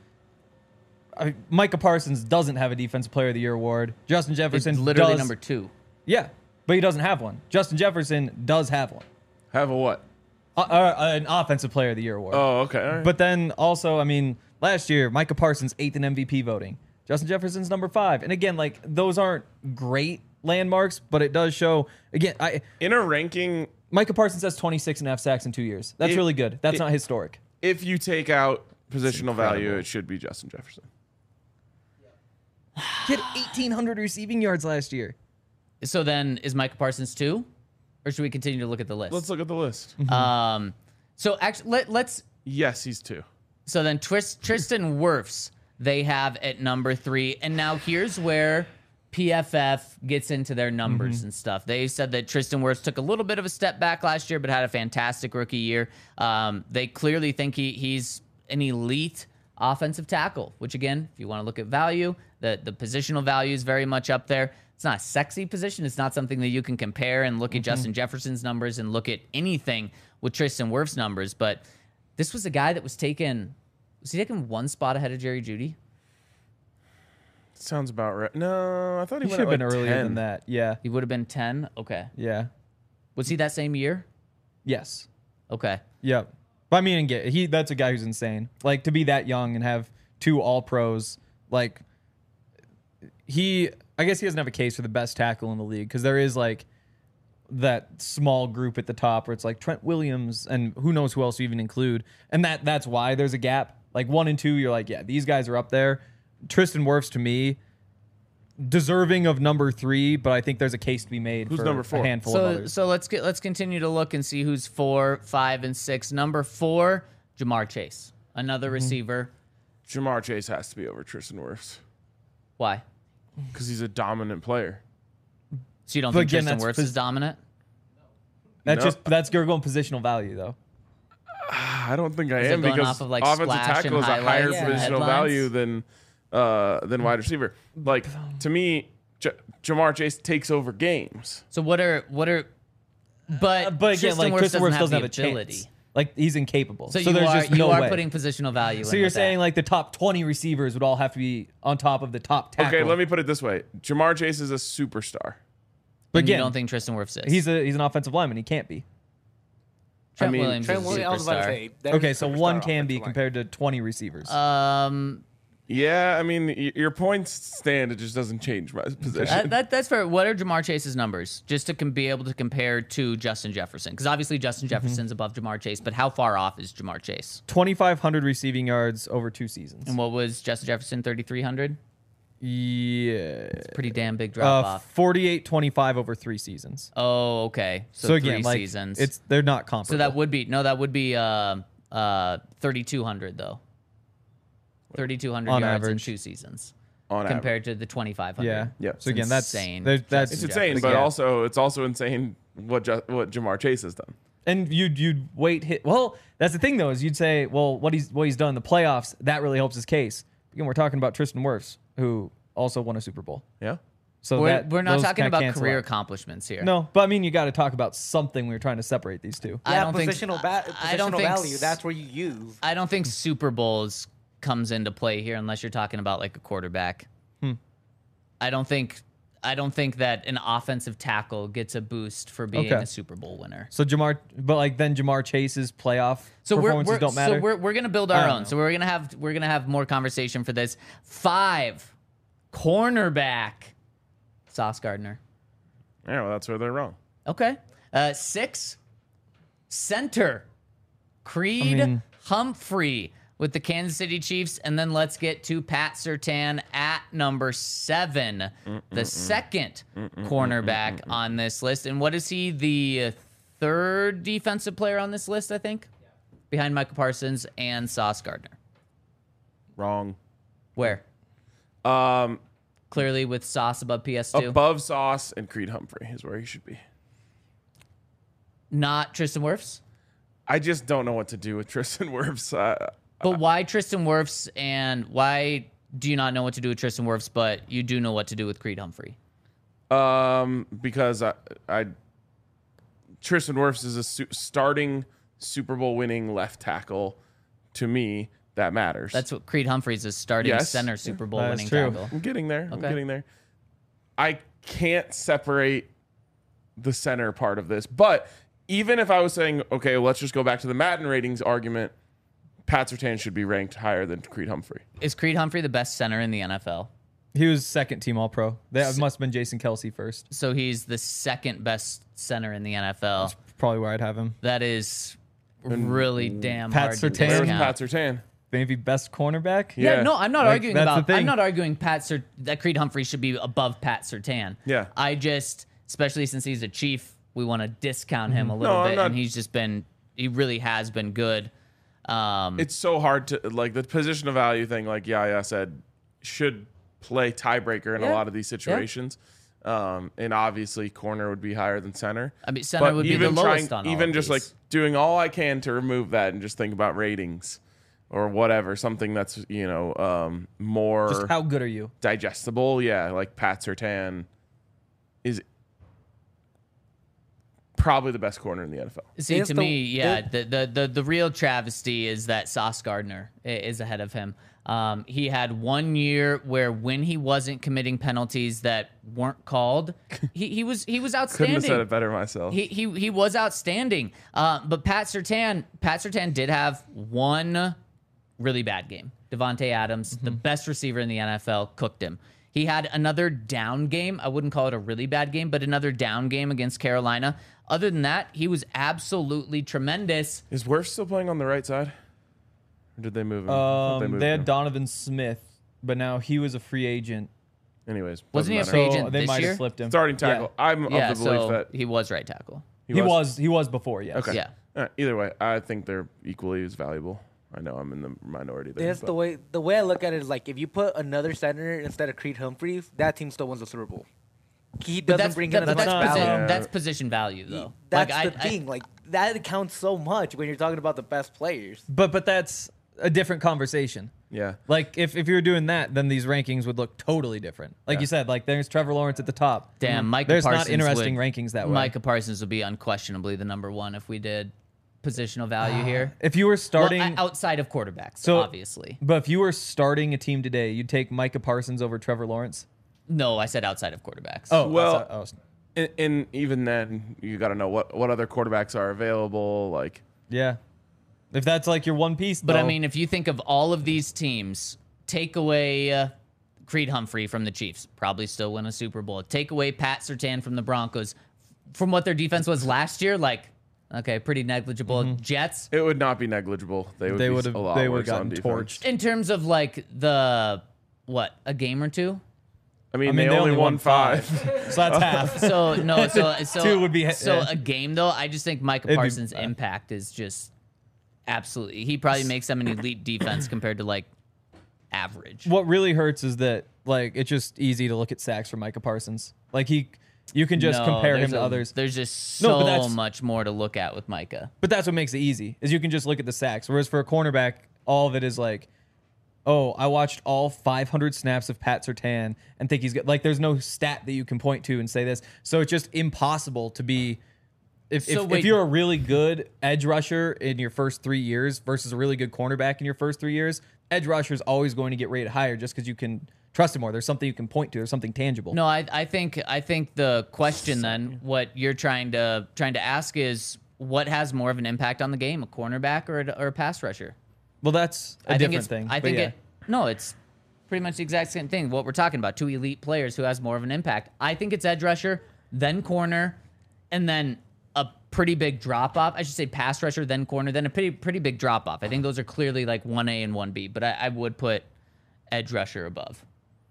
Micah Parsons doesn't have a Defensive Player of the Year award. Justin It's Jefferson literally does. number 2. Yeah, but he doesn't have one. Justin Jefferson does have one. Have a what? An Offensive Player of the Year award. Oh, okay. All right. But then also, I mean, last year, Micah Parsons 8th in MVP voting. Justin Jefferson's number 5. And again, like, those aren't great landmarks, but it does show, again, in a ranking, Micah Parsons has 26.5 sacks in 2 years. That's really good. That's not historic. if you take out positional value, it should be Justin Jefferson. He had 1,800 receiving yards last year. So then, is Micah Parsons 2? Or should we continue to look at the list? Let's look at the list. So actually, let's. Yes, he's 2. So then Tristan Wirfs, they have at number 3. And now here's where PFF gets into their numbers and stuff. They said that Tristan Wirfs took a little bit of a step back last year, but had a fantastic rookie year. They clearly think he's an elite offensive tackle, which again, if you want to look at value, the positional value is very much up there. It's not a sexy position. It's not something that you can compare and look at Justin Jefferson's numbers and look at anything with Tristan Wirfs' numbers. But this was a guy that was he taken one spot ahead of Jerry Jeudy? Sounds about right. No, I thought he He went should have at been like earlier 10. than that. Yeah. He would have been 10? Okay. Yeah. Was he that same year? Yes. Okay. Yeah. But I mean, that's a guy who's insane. Like, to be that young and have 2 All-Pros, like, I guess he doesn't have a case for the best tackle in the league because there is, like, that small group at the top where it's like Trent Williams and who knows who else you even include. And that's why there's a gap. Like 1 and 2, you're like, yeah, these guys are up there. Tristan Wirfs, to me, deserving of number 3, but I think there's a case to be made Who's for number 4? a handful of others. So let's continue to look and see who's 4, 5, and 6. Number 4, Jamar Chase, another receiver. Jamar Chase has to be over Tristan Wirfs Why? because he's a dominant player. So you don't But think again, Tristan that's Wirfs is dominant? That's you're going positional value though. I don't think I Is it am going because off of, like, offensive splash tackle and is a higher highlights and positional headlines? value than wide receiver. Like to me, Jamar Chase takes over games. So what are but But again, Tristan like Wirfs Tristan Wirfs doesn't the have a ability. chance. Like he's incapable. So, there's just you no are way. putting positional value. So in you're with saying that. like the top 20 receivers would all have to be on top of the top tackle. Okay, let me put it this way: Jamar Chase is a superstar. But And you again, don't think Tristan Wirfs is? he's an offensive lineman. He can't be. Trent I mean, Williams Trent is a Williams, I was about to superstar. say, that Okay, is so superstar one can offensive be line. compared to 20 receivers. Yeah, I mean, your points stand. It just doesn't change my position. That's fair. What are Jamar Chase's numbers? Just to be able to compare to Justin Jefferson. Because obviously Justin Jefferson's above Jamar Chase, but how far off is Jamar Chase? 2,500 receiving yards over 2 seasons. And what was Justin Jefferson, 3,300? Yeah. Pretty damn big drop off. 48-25 over 3 seasons. Oh, okay. So, So again, 3 like seasons. they're not comparable. So that would be 3,200 though. 3,200 On yards average. in 2 seasons On compared to the 2,500. yeah. Yeah. So again, that's insane. That's It's Justin insane, Jefferson. but Yeah. it's also insane what Jamar Chase has done. And you'd wait hit. Well, that's the thing though, is you'd say, well, what he's done in the playoffs, that really helps his case. Again, we're talking about Tristan Wirfs, who also won a Super Bowl. Yeah. So We're not those talking kinda about cancel career out. accomplishments here. No, but I mean, you got to talk about something. We were trying to separate these two. I Yeah, don't think positional, I don't positional think value. That's where you use. I don't think Super Bowls comes into play here unless you're talking about like a quarterback. I don't think that an offensive tackle gets a boost for being Okay. a Super Bowl winner. So then Jamar Chase's playoff performances don't matter. So we're gonna build I our don't own. know. So we're gonna have more conversation for this. 5, cornerback, Sauce Gardner. Yeah, well, that's where they're wrong. Okay. 6, center, Creed Humphrey with the Kansas City Chiefs. And then let's get to Pat Surtain at number 7, the second cornerback on this list. And what is he, the 3rd defensive player on this list, I think? Behind Michael Parsons and Sauce Gardner. Wrong. Where? Clearly with Sauce above PS2. Above Sauce and Creed Humphrey is where he should be. Not Tristan Wirfs? I just don't know what to do with Tristan Wirfs. But why Tristan Wirfs, and why do you not know what to do with Tristan Wirfs, but you do know what to do with Creed Humphrey? Because Tristan Wirfs is a starting Super Bowl winning left tackle. To me, that matters. That's what Creed Humphrey's is, starting Yes. center Super Bowl That is winning true. tackle. I'm getting there. I'm Okay. getting there. I can't separate the center part of this, but even if I was saying, okay, well, let's just go back to the Madden ratings argument, Pat Surtain should be ranked higher than Creed Humphrey. Is Creed Humphrey the best center in the NFL? He was second team All Pro. That must have been Jason Kelsey first. So he's the second best center in the NFL. Probably where I'd have him. That is really damn Pat hard to Surtain. Where's discount. Pat Surtain? Maybe best cornerback. Yeah, no, I'm not Like, arguing that's the about. I'm thing. not arguing that Creed Humphrey should be above Pat Surtain. Yeah. I just, especially since he's a Chief, we want to discount him a little No, I'm bit, not- and he really has been good. It's so hard to, like, the position of value thing, like Yaya said, should play tiebreaker in a Yeah. lot of these situations. And obviously, corner would be higher than center. I mean, center would be the lowest on all even of just these. like doing all I can to remove that and just think about ratings or whatever, something that's more Just how good are you? digestible. Yeah, like Pat Surtain is probably the best corner in the NFL. See, Is to the- me, yeah, the real travesty is that Sauce Gardner is ahead of him. He had 1 year where when he wasn't committing penalties that weren't called, he was Couldn't outstanding. have said it better myself. He was outstanding. But Pat Surtain did have one really bad game. Devontae Adams, the best receiver in the NFL, cooked him. He had another down game. I wouldn't call it a really bad game, but another down game against Carolina. Other than that, he was absolutely tremendous. Is Wirfs still playing on the right side? Or did they move him? I thought moved They had him. Donovan Smith, but now he was a free agent. Anyways, Wasn't he a doesn't free matter. agent they this might year? have flipped him. Starting tackle. I'm Yeah, of the belief so that he was right tackle. He was before, yes. Okay. Yeah. Either way, I think they're equally as valuable. I know I'm in the minority there. That's but- the way I look at it is like if you put another center instead of Creed Humphreys, that team still wins the Super Bowl. He But doesn't bring in as much not- value. Yeah. That's position value, though. That's Like, the thing. Like that counts so much when you're talking about the best players. But that's a different conversation. Yeah. Like if you were doing that, then these rankings would look totally different. Like Yeah. you said, like there's Trevor Lawrence at the top. Damn, Micah There's Parsons not interesting would- rankings that way. Micah Parsons would be unquestionably the number one if we did positional value here. If you were starting, Well, outside of quarterbacks, So- obviously. but if you were starting a team today, you'd take Micah Parsons over Trevor Lawrence. No, I said outside of quarterbacks. Well, outside- And even then, you got to know what other quarterbacks are available. Like, yeah. If that's like your one piece, But I though, mean, if you think of all of these teams, take away Creed Humphrey from the Chiefs, probably still win a Super Bowl. Take away Pat Surtain from the Broncos, from what their defense was last year, like, okay, pretty negligible. Jets, it would not be negligible. They would they be would have a lot they would worse have on gotten defense. torched. in terms of like a game or two. I mean, I mean, they only won 5. So that's half. So no, so Two would be- so yeah. a game though. I just think Micah It'd be- Parsons' impact is just absolutely. He probably makes them an elite defense compared to like average. What really hurts is that like it's just easy to look at sacks for Micah Parsons. Like you can just No, compare him there's to a- others. There's just No, but so that's- much more to look at with Micah. But that's what makes it easy is you can just look at the sacks. Whereas for a cornerback, all of it is like, oh, I watched all 500 snaps of Pat Surtain and think he's good. Like there's no stat that you can point to and say this. So it's just impossible to be. If wait. you're a really good edge rusher in your first 3 years versus a really good cornerback in your first 3 years, edge rusher is always going to get rated higher just because you can trust him more. There's something you can point to. There's something tangible. No, I think the question then, what you're trying to ask is what has more of an impact on the game, a cornerback or a pass rusher? Well, that's a I think different it's thing. I but think yeah. it's pretty much the exact same thing. What we're talking about, two elite players who has more of an impact. I think it's edge rusher, then corner, and then a pretty big drop off. I should say pass rusher, then corner, then a pretty big drop off. I think those are clearly like 1A and 1B, but I would put edge rusher above.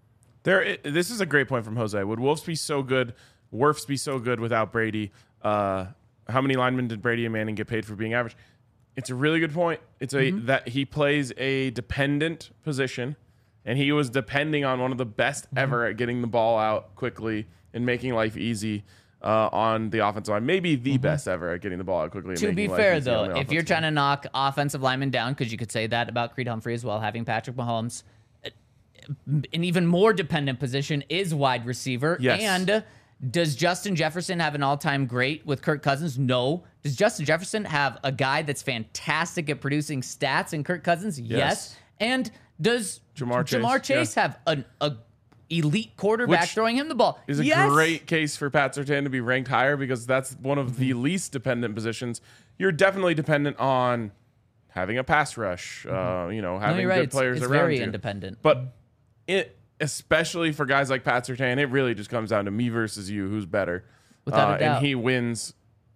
This is a great point from Jose. Would Wolves be so good, Wirfs be so good without Brady? How many linemen did Brady and Manning get paid for being average? It's a really good point. It's that he plays a dependent position, and he was depending on one of the best ever at getting the ball out quickly and making life easy on the offensive line. Maybe the best ever at getting the ball out quickly. And To making be life fair, easy on though, the if you're offensive trying line. to knock offensive linemen down, because you could say that about Creed Humphrey as well, having Patrick Mahomes, an even more dependent position is wide receiver. Yes. And does Justin Jefferson have an all-time great with Kirk Cousins? No. Does Justin Jefferson have a guy that's fantastic at producing stats in Kirk Cousins? Yes. And does Jamar Chase, have a elite quarterback Which throwing him the ball? is a Yes. great case for Pat Surtain to be ranked higher because that's one of the least dependent positions. You're definitely dependent on having a pass rush, having No, good you're right. players It's around very you. independent. But especially for guys like Pat Surtain, it really just comes down to me versus you, who's better. Without a doubt. And he wins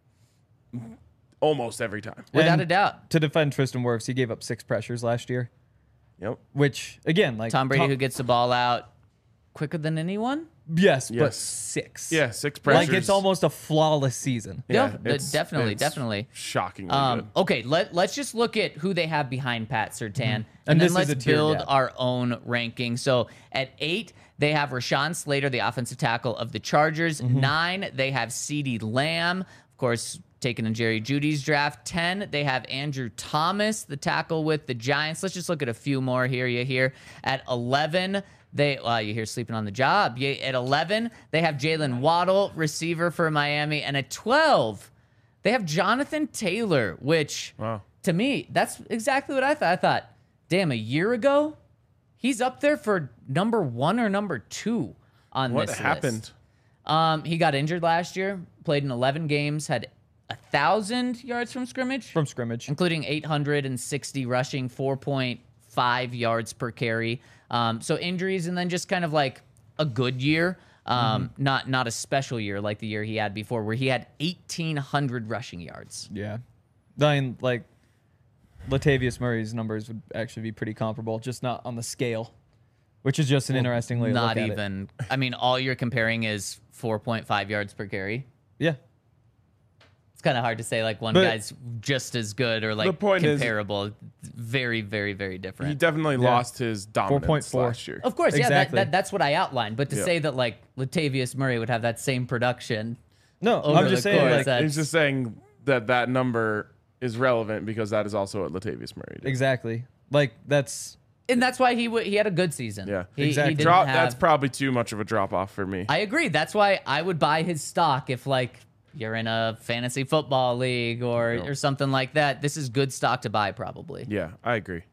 almost every time. Without And a doubt. To defend Tristan Wirfs, he gave up 6 pressures last year, Yep. which again, like Tom Brady who gets the ball out quicker than anyone? yes, but Yes. 6. Yeah, 6 pressures. Like it's almost a flawless season. Yeah, it's- definitely, it's definitely. shockingly good. Okay, let's just look at who they have behind Pat Surtain, and And then this is let's a tier build gap. our own ranking. So at 8, they have Rashawn Slater, the offensive tackle of the Chargers. 9, they have CeeDee Lamb, of course, taken in Jerry Jeudy's draft. 10, they have Andrew Thomas, the tackle with the Giants. Let's just look at a few more here. You hear at 11. You hear sleeping on the job. At 11, they have Jalen Waddle, receiver for Miami. And at 12, they have Jonathan Taylor, which to me, that's exactly what I thought. I thought, damn, a year ago, he's up there for number 1 or number 2 on What this happened? list. He got injured last year, played in 11 games, had 1,000 yards from scrimmage, From scrimmage. including 860 rushing, 4.5 yards per carry. So injuries and then just kind of like a good year, not a special year like the year he had before, where he had 1,800 rushing yards. Yeah. I mean, like Latavius Murray's numbers would actually be pretty comparable, just not on the scale. which is just an interesting way to Not look at even. I mean, all you're comparing is 4.5 yards per carry. Yeah. It's kind of hard to say like one But- guy's just as good or like point is- comparable. Very, very, very He different. definitely lost his dominance 4.4. last year. Of course, Exactly. yeah, that's what I outlined. But to Yeah. say that like Latavius Murray would have that same production, No, Over I'm the just saying, course, like, that- He's just saying that number is relevant because that is also what Latavius Murray did. exactly. Like, that's and that's why he had a good season. Yeah. he, Exactly. He didn't Drop, have, that's probably too much of a drop off for me. I agree. That's why I would buy his stock if like you're in a fantasy football league or something like that. This is good stock to buy probably. Yeah, I agree.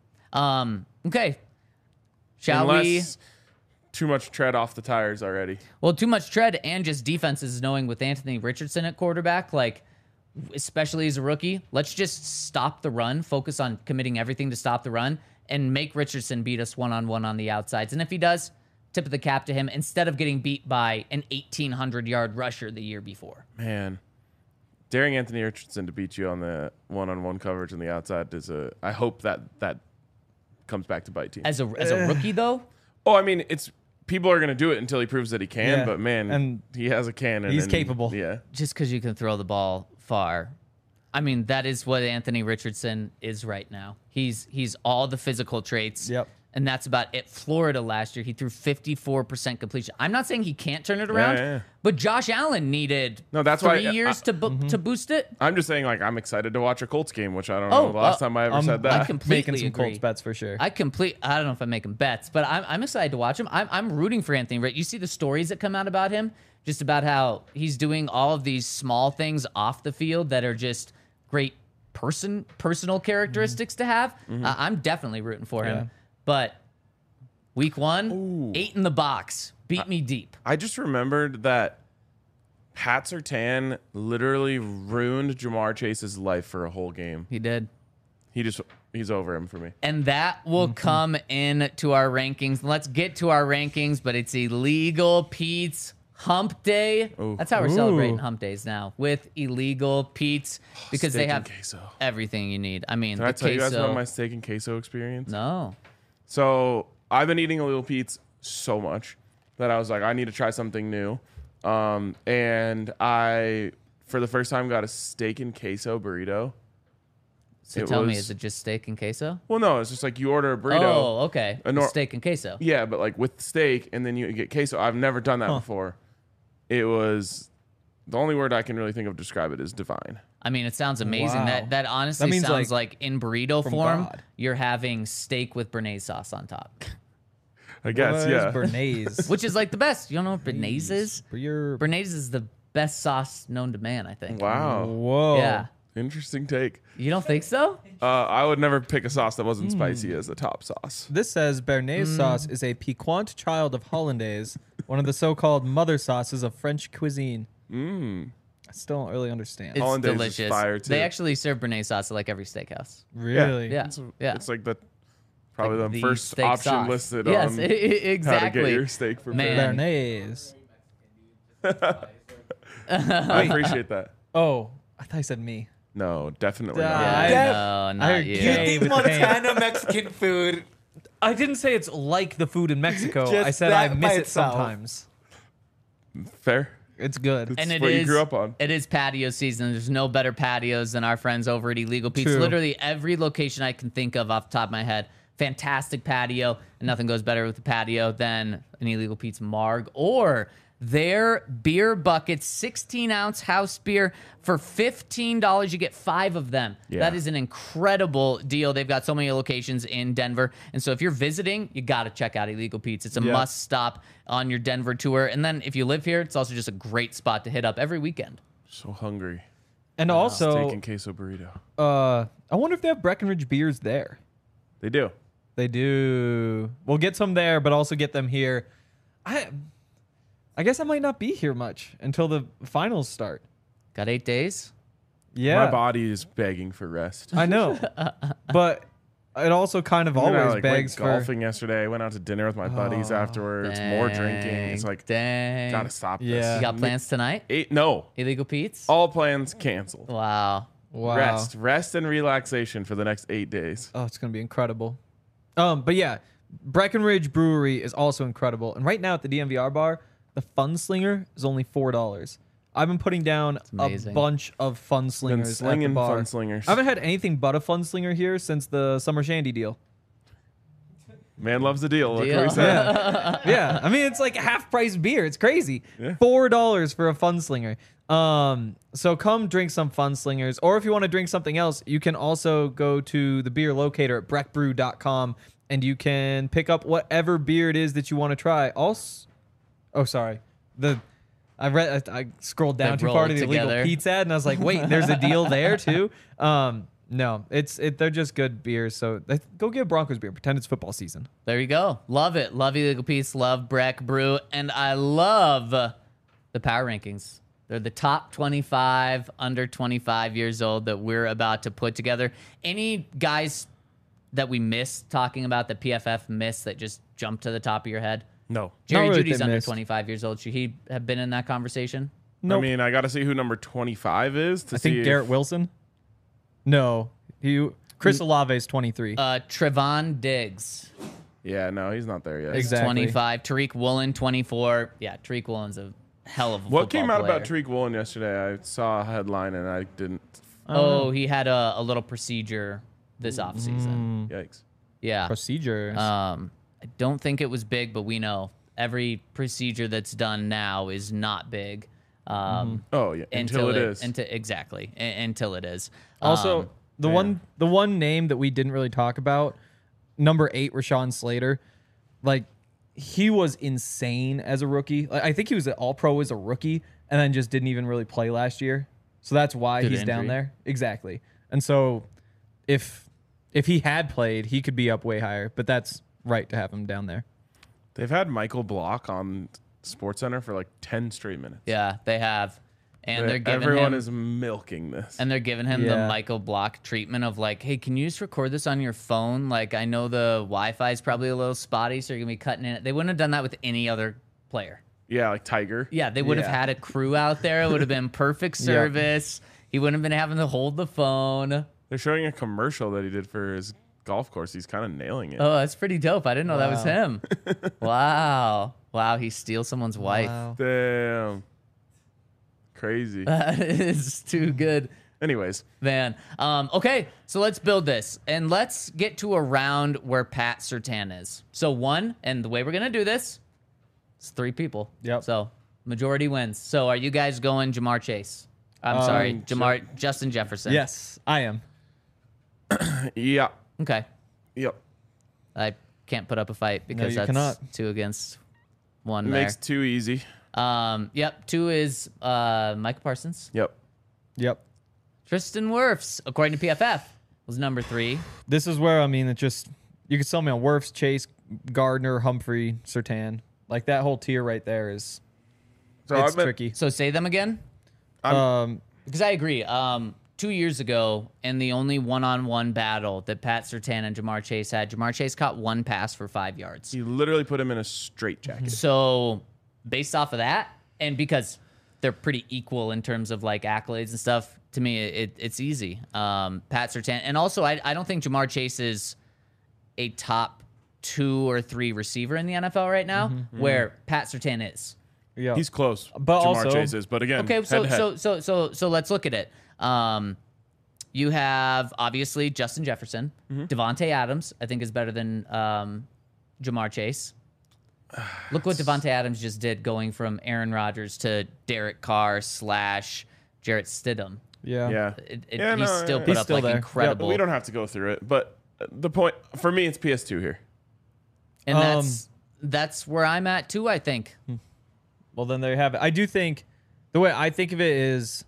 Okay. Shall we? Unless too much tread off the tires already. Well, too much tread and just defenses knowing with Anthony Richardson at quarterback, like especially as a rookie, let's just stop the run, focus on committing everything to stop the run, and make Richardson beat us one-on-one on the outsides. And if he does, tip of the cap to him instead of getting beat by an 1,800-yard rusher the year before. Man, daring Anthony Richardson to beat you on the one-on-one coverage on the outside is I hope that comes back to bite teams. As a rookie, though, Oh, I mean, it's people are going to do it until he proves that he can. Yeah. But man, And he has a cannon. he's and- capable. Yeah, just because you can throw the ball far. I mean, that is what Anthony Richardson is right now. He's all the physical traits. Yep. And that's about it. Florida last year, he threw 54% completion. I'm not saying he can't turn it around, yeah. but Josh Allen needed No, that's 3 why- years to boost it. I'm just saying, like, I'm excited to watch a Colts game, which I don't know the last time I ever said I that. completely making some agree. Colts bets for sure. I don't know if I'm making bets, but I'm excited to watch him. I'm rooting for Anthony. Right? You see the stories that come out about him, just about how he's doing all of these small things off the field that are just great personal characteristics to have. I'm definitely rooting for him. Yeah. But week 1, 8 in the box, beat me deep. I just remembered that Pat Surtain literally ruined Jamar Chase's life for a whole game. He did. He's over him for me. And that will come in to our rankings. Let's get to our rankings, but it's Illegal Pete's Hump Day. Ooh. That's how we're celebrating Hump Days now, with Illegal Pete's, because they Steak have and queso. everything you need. I mean, Did the I tell you guys queso. about my steak and queso experience? No. So I've been eating Little Pete's so much that I was like, I need to try something new. And I, for the first time, got a steak and queso burrito. So It tell me, was- is it just steak and queso? Well, no, it's just like you order a burrito. Oh, okay. A nor- Steak and queso. Yeah, but like with steak, and then you get queso. I've never done that before. It was the only word I can really think of to describe it is divine. I mean, it sounds amazing. Wow. That honestly That means, sounds like in burrito from form, God. you're having steak with béarnaise sauce on top, I guess, What is yeah. Bernays. which is like the best. You don't know what béarnaise is? Your Béarnaise is the best sauce known to man, I think. Wow, whoa. Yeah. interesting take. You don't think so? I would never pick a sauce that wasn't spicy as a top sauce. This says Bernaise sauce is a piquant child of Hollandaise, one of the so-called mother sauces of French cuisine. I still don't really understand. It's Hollandaise is delicious. fire, too. They actually serve béarnaise sauce at like every steakhouse. Really? Yeah. Yeah. It's like probably Like the first steak option sauce. listed Yes, on exactly. how to get your steak prepared. Man. Bernaise. I appreciate that. Oh, I thought you said me. No, definitely Yeah, not. Yeah, no, not heard you. gay. You think with the pain. Montana Mexican food? I didn't say it's like the food in Mexico. Just I said I that miss by it itself. sometimes. Fair. It's good. And It's it what you is- grew up on. It is patio season. There's no better patios than our friends over at Illegal Pete's. True. Literally every location I can think of off the top of my head. Fantastic patio. And nothing goes better with the patio than an Illegal Pete's Marg or their beer buckets, 16-ounce house beer for $15. You get 5 of them. Yeah. That is an incredible deal. They've got so many locations in Denver. And so if you're visiting, you got to check out Illegal Pete's. It's a Yeah. must stop on your Denver tour. And then if you live here, it's also just a great spot to hit up every weekend. So hungry. And Steak also, and queso burrito. I wonder if they have Breckenridge beers there. They do. They do. We'll get some there, but also get them here. I guess I might not be here much until the finals start. Got 8 days? Yeah, My body is begging for rest. I know, but it also kind of And then I, always like, begs went for. golfing yesterday. Went out to dinner with my buddies afterwards. More drinking. It's like dang. gotta stop Yeah. this. You got plans tonight? No, Illegal Pete's? all plans canceled. Wow. Wow. Rest and relaxation for the next 8 days. Oh, it's gonna be incredible. But yeah, Breckenridge Brewery is also incredible. And right now at the DMVR bar, the Fun Slinger is only $4. I've been putting down a amazing. bunch of Fun Slingers at the slinging bar. Fun Slingers. I haven't had anything but a Fun Slinger here since the Summer Shandy deal. Man loves a deal. Look Deal. what he said. Yeah, I mean it's like half price beer. It's crazy. Yeah. $4 for a Fun Slinger. So come drink some Fun Slingers, or if you want to drink something else, you can also go to the beer locator at breckbrew.com and you can pick up whatever beer it is that you want to try. Also, oh sorry, I scrolled down They too far to rolled the illegal together. Pete's ad, and I was like, wait, there's a deal there too. No, they're just good beers. So go get Broncos beer. Pretend it's football season. There you go. Love it. Love Illegal Peace. Love Breck Brew. And I love the power rankings. They're the top 25 under 25 years old that we're about to put together. Any guys that we missed talking about that PFF missed that just jumped to the top of your head? No. Jerry Not really Judy's they under missed. 25 years old. Should he have been in that conversation? Nope. I mean, I got to see who number 25 is to I see think if- Garrett Wilson. No, Chris Olave is 23. Trevon Diggs, Yeah, no, he's not there yet. Exactly. 25. Tariq Woolen, 24. Yeah, Tariq Woolen's a hell of a What football came out player. about Tariq Woolen yesterday? I saw a headline and I didn't. Oh, he had a little procedure this offseason. Yikes. Yeah. Procedures. I don't think it was big, but we know every procedure that's done now is not big. Oh, yeah. Until it is. Exactly. Until it is. Also, the one name that we didn't really talk about, number 8, Rashawn Slater. Like, he was insane as a rookie. Like, I think he was an All-Pro as a rookie, and then just didn't even really play last year. So that's why Good he's down injury. there. Exactly. And so, if he had played, he could be up way higher. But that's right to have him down there. They've had Michael Block on SportsCenter for like 10 straight minutes. Yeah, they have. And they're giving Everyone him, is milking this. and they're giving him the Yeah. Michael Block treatment of like, hey, can you just record this on your phone? Like, I know the Wi-Fi is probably a little spotty, so you're gonna be cutting in it. They wouldn't have done that with any other player. Yeah, like Tiger. Yeah, they would have Yeah. had a crew out there. It would have been perfect service. He wouldn't have been having to hold the phone. They're showing a commercial that he did for his golf course. He's kind of nailing it. Oh, that's pretty dope. I didn't know that was him. Wow. Wow, he steals someone's wife. Wow. Damn. Crazy. That is too good, Anyways, man. Okay, so let's build this. And let's get to a round where Pat Surtain is. So one, and the way we're going to do this, it's 3 people. Yep. So majority wins. So are you guys going Jamar Chase? I'm sorry, Justin Jefferson. Yes, I am. yeah. Okay. Yep. I can't put up a fight because you that's cannot. 2 against 1 It there. makes too easy. Yep. 2 is Micah Parsons. Yep. Yep. Tristan Wirfs, according to PFF, was number 3. This is where, I mean, it just, you could sell me on Wirfs, Chase, Gardner, Humphrey, Surtain. Like, that whole tier right there is, So it's I've been- tricky. So say them again, because I agree. 2 years ago, in the only one-on-one battle that Pat Surtain and Jamar Chase had, Jamar Chase caught 1 pass for 5 yards. You literally put him in a straitjacket. So based off of that, and because they're pretty equal in terms of like accolades and stuff, to me it's easy. Pat Surtain, and also I don't think Jamar Chase is a top 2 or 3 receiver in the NFL right now, where Pat Surtain is. Yeah. He's close. But Jamar also- Chase is, but again, Okay, so head-to-head. so let's look at it. You have obviously Justin Jefferson, Devontae Adams. I think is better than Jamar Chase. Look what Devontae Adams just did, going from Aaron Rodgers to Derek Carr / Jarrett Stidham. Yeah. Yeah. Yeah, He's no, still yeah. put He's up still like there. incredible, We don't have to go through it, but the point for me, it's PS2 here. and that's where I'm at too. I think. Well, then there you have it. I do think the way I think of it is,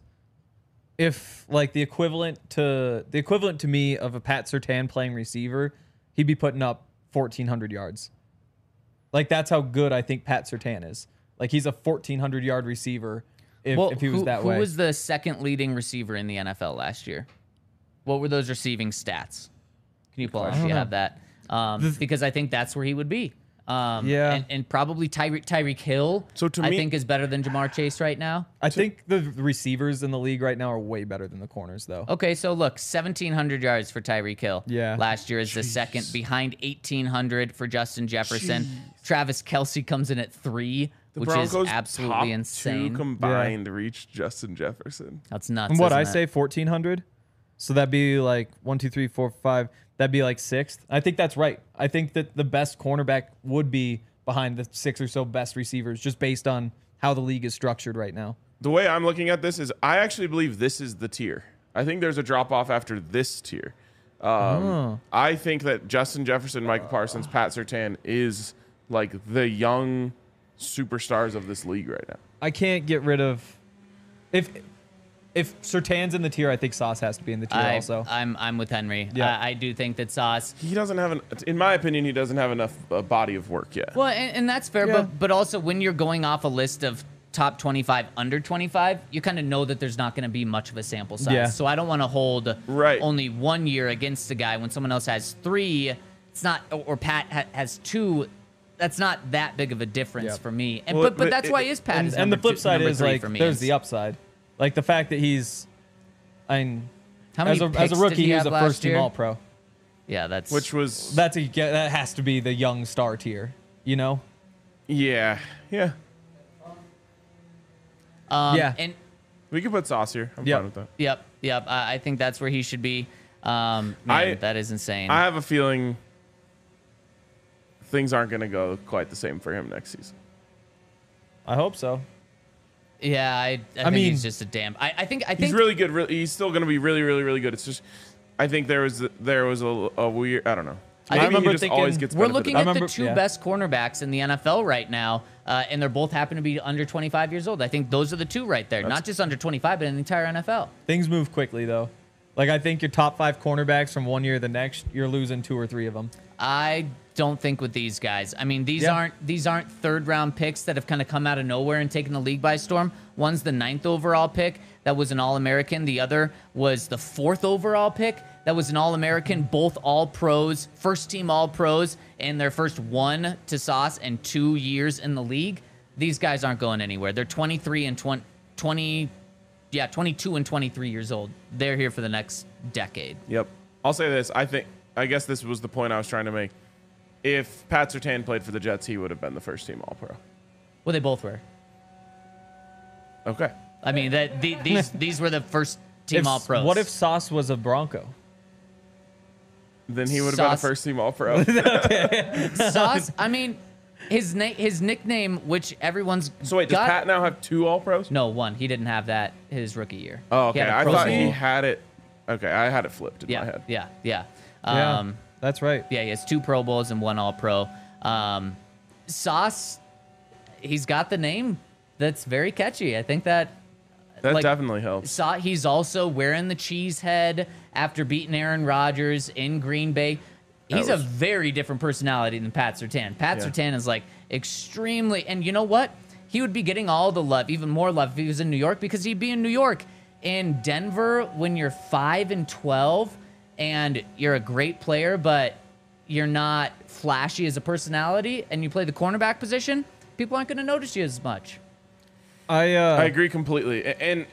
if like the equivalent to me of a Pat Surtain playing receiver, he'd be putting up 1,400 yards. Like, that's how good I think Pat Surtain is. Like, he's a 1,400 yard receiver if he was that way. Who was the second leading receiver in the NFL last year? What were those receiving stats? Can you pull up if you have that? Because I think that's where he would be. And probably Tyreek Hill. So to I me- think is better than Jamar Chase right now. I think the receivers in the league right now are way better than the corners, though. Okay, so look, 1,700 yards for Tyreek Hill. Yeah. Last year is the second, behind 1,800 for Justin Jefferson. Travis Kelce comes in at 3, The which Broncos' is absolutely top insane. two combined reached Justin Jefferson. That's nuts. And what isn't I it? say, 1,400. So that'd be like 1, 2, 3, 4, 5. That'd be like 6th. I think that's right. I think that the best cornerback would be behind the 6 or so best receivers, just based on how the league is structured right now. The way I'm looking at this is I actually believe this is the tier. I think there's a drop off after this tier. I think that Justin Jefferson, Michael Parsons, Pat Surtain is like the young superstars of this league right now. I can't get rid of if Surtain's in the tier, I think Sauce has to be in the tier also. I'm with Henry. Yeah. I do think that Sauce. He doesn't have in my opinion, he doesn't have enough body of work yet. Well, and that's fair, Yeah. but also when you're going off a list of top 25, under 25, you kind of know that there's not going to be much of a sample size. Yeah. So I don't want to hold Right. only 1 year against a guy when someone else has 3. It's not, or Pat has 2. That's not that big of a difference Yeah. for me. And, Well, but but that's why his Pat is and the number flip two- side number is 3 like for me. there's It's- the upside, like the fact that he's, How many as a picks did rookie, he was have a last first team year? All Pro. Yeah, that's Which was That has to be the young star tier, you know? yeah. Yeah. And We could put Sauce here. I'm Yep. fine with that. yep. I think that's where he should be. Man, I- that is insane. I have a feeling things aren't going to go quite the same for him next season. I hope so. Yeah, I think mean- he's just a damn. I think He's really good. He's still going to be really, really, really good. It's just, I think there was a weird. I don't know. I Maybe remember he just thinking- always gets. we're benefited. looking I at the remember- two yeah. best cornerbacks in the NFL right now, and they're both happen to be under 25 years old. I think those are the two right there, not just under 25, but in the entire NFL. Things move quickly though. Like I think your top 5 cornerbacks from one year to the next, you're losing 2 or 3 of them. I don't think with these guys. I mean, these Yeah. aren't third round picks that have kind of come out of nowhere and taken the league by storm. One's the 9th overall pick that was an All-American. The other was the 4th overall pick that was an All-American. Both All-Pros, first team All-Pros, and their first 1 to Sauce and 2 years in the league. These guys aren't going anywhere. They're 23 and 22 and 23 years old. They're here for the next decade. Yep. I'll say this. I guess this was the point I was trying to make. If Pat Surtain played for the Jets, he would have been the first team All Pro. Well, they both were. Okay. I mean, these were the first team If- All Pros. What if Sauce was a Bronco? Then he would have been a Sauce. first team All Pro. Sauce? I mean, his nickname, which everyone's So wait, does got, Pat now have 2 All Pros? No, 1. He didn't have that his rookie year. Oh, He okay. had a I Pro thought Bowl. he had it. Okay, I had it flipped in my Yeah, head. yeah. Yeah, that's right. Yeah, he has 2 Pro Bowls and 1 All Pro. Sauce, he's got the name that's very catchy. I think that That like, definitely helps. he's also wearing the cheese head after beating Aaron Rodgers in Green Bay. He's a very different personality than Pat Surtain. Pat Yeah. Surtain is like extremely, and you know what? He would be getting all the love, even more love if he was in New York, because he'd be in New York. In Denver, when you're 5-12 and you're a great player, but you're not flashy as a personality, and you play the cornerback position, people aren't going to notice you as much. I agree completely. And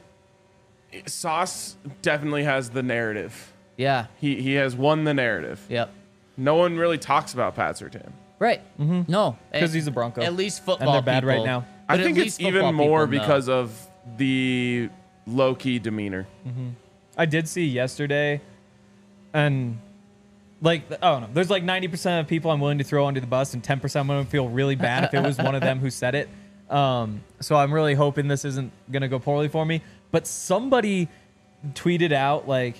Sauce definitely has the narrative. Yeah. He has won the narrative. Yep. No one really talks about Pat Surtain. Right. No. 'Cause he's a Bronco. At least And football they're bad right people- now. I but at think least it's even football more people know. because of the low-key demeanor. I did see yesterday, and like, oh no, there's like 90% of people I'm willing to throw under the bus, and 10% I'm going to feel really bad if it was one of them who said it. So I'm really hoping this isn't going to go poorly for me. But somebody tweeted out, like,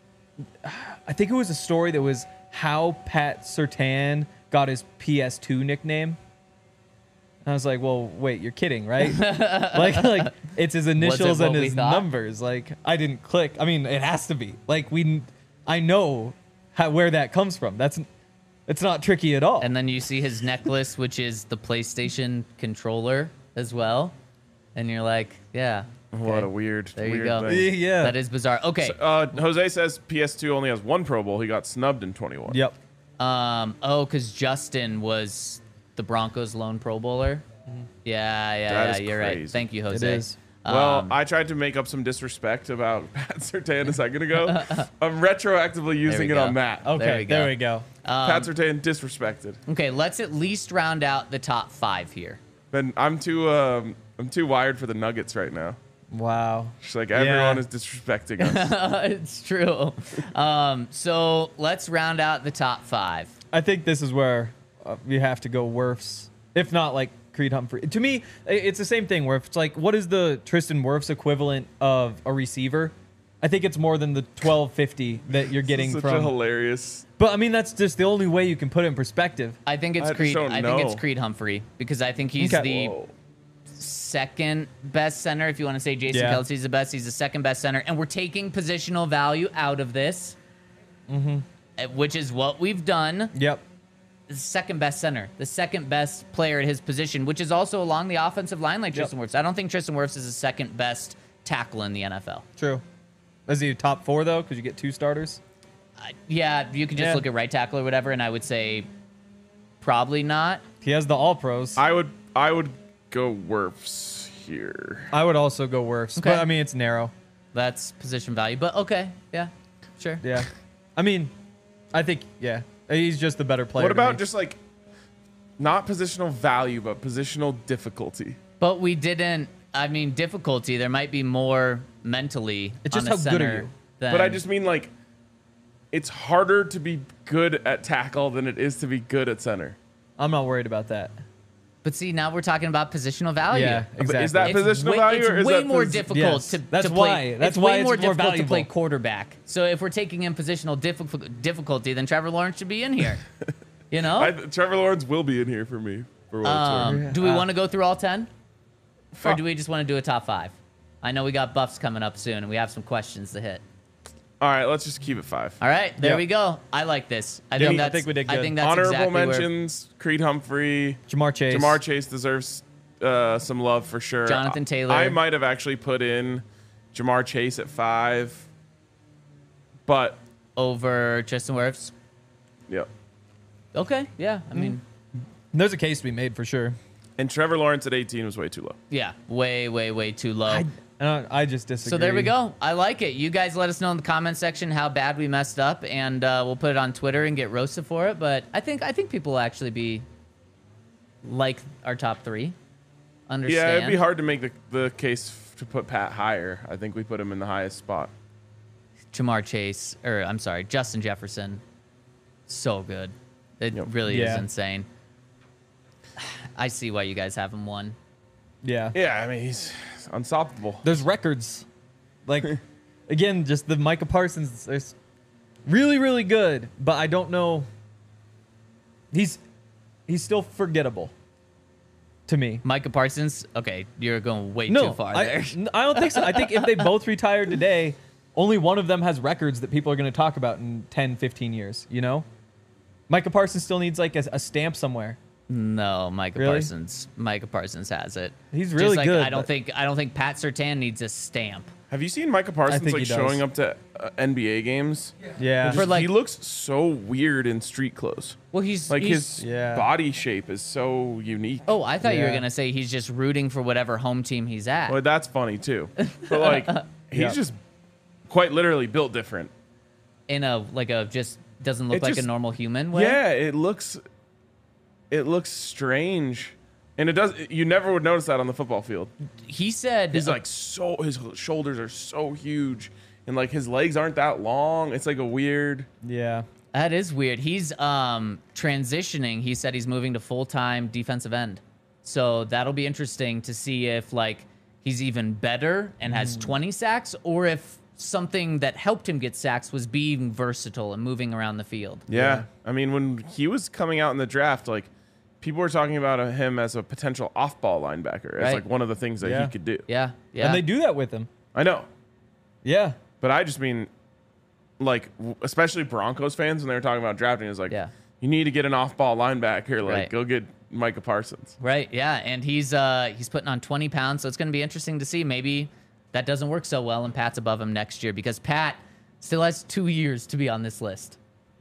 I think it was a story that was how Pat Surtain got his PS2 nickname. I was like, well, wait, you're kidding, right? like it's his initials what and we his thought? numbers. Like, I didn't click. I mean, it has to be. Like, I know where that comes from. It's not tricky at all. And then you see his necklace, which is the PlayStation controller as well. And you're like, yeah. What okay. a weird, There you weird go. thing. yeah. That is bizarre. Okay. Jose says PS2 only has 1 Pro Bowl. He got snubbed in 21. Yep. Because Justin was the Broncos' lone Pro Bowler. Yeah, That is you're right. crazy. Thank you, It Jose. is. Well, I tried to make up some disrespect about Pat Surtain a second ago. I'm retroactively using we it go. on Matt. Okay, we there go. we go. Pat Surtain disrespected. Okay, let's at least round out the top 5 here. But I'm too wired for the Nuggets right now. Wow. Just like everyone Yeah. is disrespecting us. It's true. So let's round out the top 5. I think this is where you have to go Wirfs, if not like Creed Humphrey. To me, it's the same thing where if it's like, what is the Tristan Wirfs equivalent of a receiver? I think it's more than the 1250 that you're getting Such a from. hilarious. But I mean, that's just the only way you can put it in perspective. I think it's I just Creed. don't I think it's know. Creed Humphrey because I think he's Okay. the Whoa. second best center. If you want to say Jason Yeah. Kelsey's the best, he's the second best center. And we're taking positional value out of this, which is what we've done. Yep. The second best center, the second best player at his position, which is also along the offensive line like Tristan Wirfs. I don't think Tristan Wirfs is the second best tackle in the NFL. True. Is he top 4 though? Because you get 2 starters. Yeah, you can just Yeah. look at right tackle or whatever, and I would say probably not. He has the All Pros. I would go Wirfs here. I would also go Wirfs, Okay. but I mean it's narrow. That's position value, but okay, yeah, sure. Yeah. I mean, I think he's just the better player. What to about me. just like not positional value, but positional difficulty? But we didn't. I mean, difficulty. There might be more mentally. It's just on a how good are center you? than- But I just mean like it's harder to be good at tackle than it is to be good at center. I'm not worried about that. But see, now we're talking about positional value. Yeah, exactly. Is that It's positional way, value it's or is way that more pos- difficult Yes, to that's to why- play. that's it's why way it's more more difficult to play valuable. quarterback. So if we're taking in positional difficulty, then Trevor Lawrence should be in here. You know. Trevor Lawrence will be in here for me. For what it's worth. Do we want to go through all 10? Or do we just want to do a top 5? I know we got buffs coming up soon, and we have some questions to hit. All right, let's just keep it 5. All right, there Yeah. we go. I like this. I Yeah, think I that's. think we did I good. think that's Honorable exactly where- mentions: Creed Humphrey, Jamar Chase. Jamar Chase deserves some love for sure. Jonathan Taylor. I might have actually put in Jamar Chase at 5, but over Tristan Wirfs. yep. Okay, yeah. I mean, There's a case to be made for sure. And Trevor Lawrence at 18 was way too low. yeah, way too low. I just disagree. So there we go. I like it. You guys let us know in the comment section how bad we messed up, and we'll put it on Twitter and get roasted for it. But I think people will actually be like our top 3. Understand? Yeah, it'd be hard to make the case to put Pat higher. I think we put him in the highest spot. Jamar Chase, or I'm sorry, Justin Jefferson, so good. It Yep. really is Yeah. insane. I see why you guys have him 1. Yeah. Yeah, I mean he's unstoppable. There's records. Like, again, just the Micah Parsons is really, really good, but I don't know. He's still forgettable to me. Micah Parsons. Okay, you're going way No, too far I, there. I don't think so. I think if they both retired today, only one of them has records that people are going to talk about in 10, 15 years, you know? Micah Parsons still needs like a stamp somewhere. No, Micah Really? Parsons. Micah Parsons has it. He's Just really like, good, I don't but- think Pat Surtain needs a stamp. Have you seen Micah Parsons think like he does. showing up to NBA games? Yeah. For, like- he looks so weird in street clothes. Well, he's Like he's, his Yeah. body shape is so unique. Oh, I thought you were Yeah. gonna say he's just rooting for whatever home team he's at. Well, that's funny too. But like, he's Yeah. just quite literally built different. In a just doesn't look It like just- a normal human way. Yeah, it looks strange, and it does. You never would notice that on the football field. He said He's like his shoulders are so huge, and like his legs aren't that long. It's like a weird. Yeah. that is weird. He's transitioning. He said he's moving to full-time defensive end. So that'll be interesting to see if like he's even better and has 20 sacks, or if something that helped him get sacks was being versatile and moving around the field. Yeah. I mean, when he was coming out in the draft, like people were talking about him as a potential off-ball linebacker. It's Right. like one of the things that Yeah. he could do. Yeah, yeah. And they do that with him. I know, Yeah. but I just mean, like, especially Broncos fans when they were talking about drafting, is like, Yeah. you need to get an off-ball linebacker. Like, Right. go get Micah Parsons. Right, yeah, and he's putting on 20 pounds, so it's going to be interesting to see. Maybe that doesn't work so well, and Pat's above him next year because Pat still has 2 years to be on this list.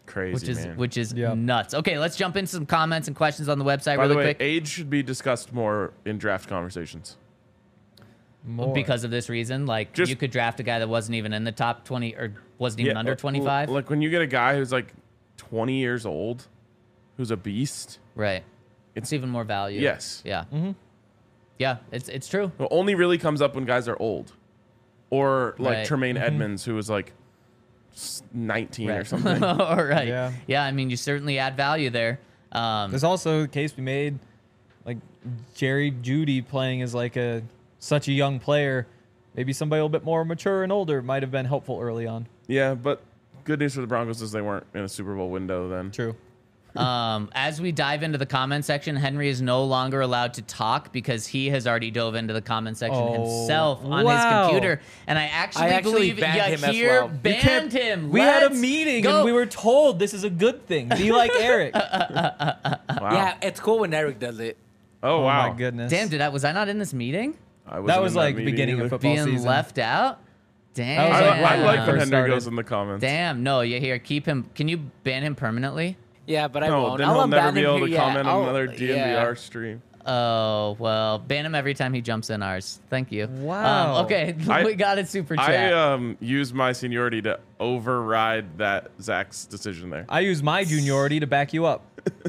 Crazy, which is Yeah. nuts. Okay, let's jump into some comments and questions on the website By really the way, quick. age should be discussed more in draft conversations. More. Because of this reason, like Just- you could draft a guy that wasn't even in the top 20 or wasn't even under 25. Like when you get a guy who's like 20 years old, who's a beast. Right. It's even more value. Yes. Yeah. Yeah, it's true. It only really comes up when guys are old, or like Right. Tremaine Edmonds, who was like 19 or Right. something. All right. Yeah. Yeah, I mean, you certainly add value there. There's also a case we made, like Jerry Judy playing as like such a young player. Maybe somebody a little bit more mature and older might have been helpful early on. Yeah, but good news for the Broncos is they weren't in a Super Bowl window then. True. As we dive into the comment section, Henry is no longer allowed to talk because he has already dove into the comment section Oh, himself on wow. his computer. And I actually believe banned him as Yahir well. banned him. We had a Let's meeting go. and we were told this is a good thing. Be like Eric. Wow. Yeah, it's cool when Eric does it. Oh, Oh wow. my goodness. Damn, was I not in this meeting? I wasn't That in was like meeting beginning either. of football Being season. left out? Damn. was like I like when First Henry started. goes in the comments. Damn. No, Yahir, keep him. Can you ban him permanently? Yeah, but I No, won't. then I'll he'll never unban be him able here, to yeah. comment on I'll- another DNVR yeah. stream. Oh, well, ban him every time he jumps in ours. Thank you. Wow. Okay, we got it, super I chat. used my seniority to override that Zach's decision there. I use my juniority to back you up.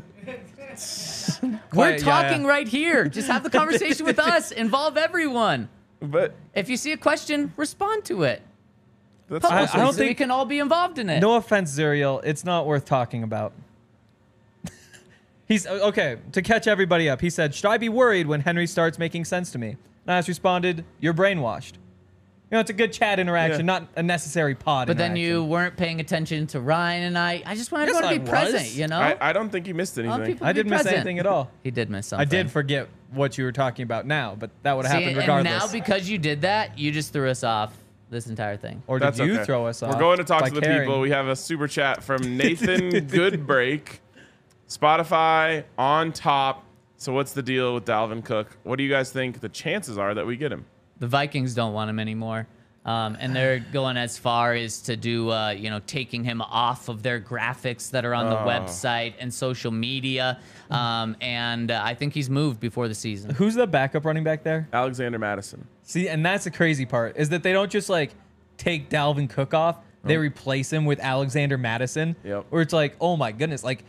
We're Quiet, talking yeah. right here. Just have the conversation with us. Involve everyone. But If you see a question, respond to it. that's Publish I it don't so we think- can all be involved in it. No offense, Zuriel. It's not worth talking about. He's okay. To catch everybody up, he said, "Should I be worried when Henry starts making sense to me?" And I just responded, "You're brainwashed." You know, it's a good chat interaction, Yeah. not a necessary pod. But then interaction. you weren't paying attention to Ryan and I. I just wanted Yes, everyone to I be present, was. you know? I don't think he missed I want anything. people I to be didn't miss present. anything at all. He did miss I something. did forget what you were talking about now, but that would have See, happened and regardless. now because you did that, you just threw us off this entire thing. Or did That's you okay. throw us off? We're going to talk by to the caring? people. We have a super chat from Nathan Goodbreak. Spotify on top. So what's the deal with Dalvin Cook? What do you guys think the chances are that we get him? The Vikings don't want him anymore. And they're going as far as to do, taking him off of their graphics that are on the website and social media. And I think he's moved before the season. Who's the backup running back there? Alexander Madison. See, and that's the crazy part is that they don't just like take Dalvin Cook off; they replace him with Alexander Madison. Yep. Where it's like, oh my goodness, like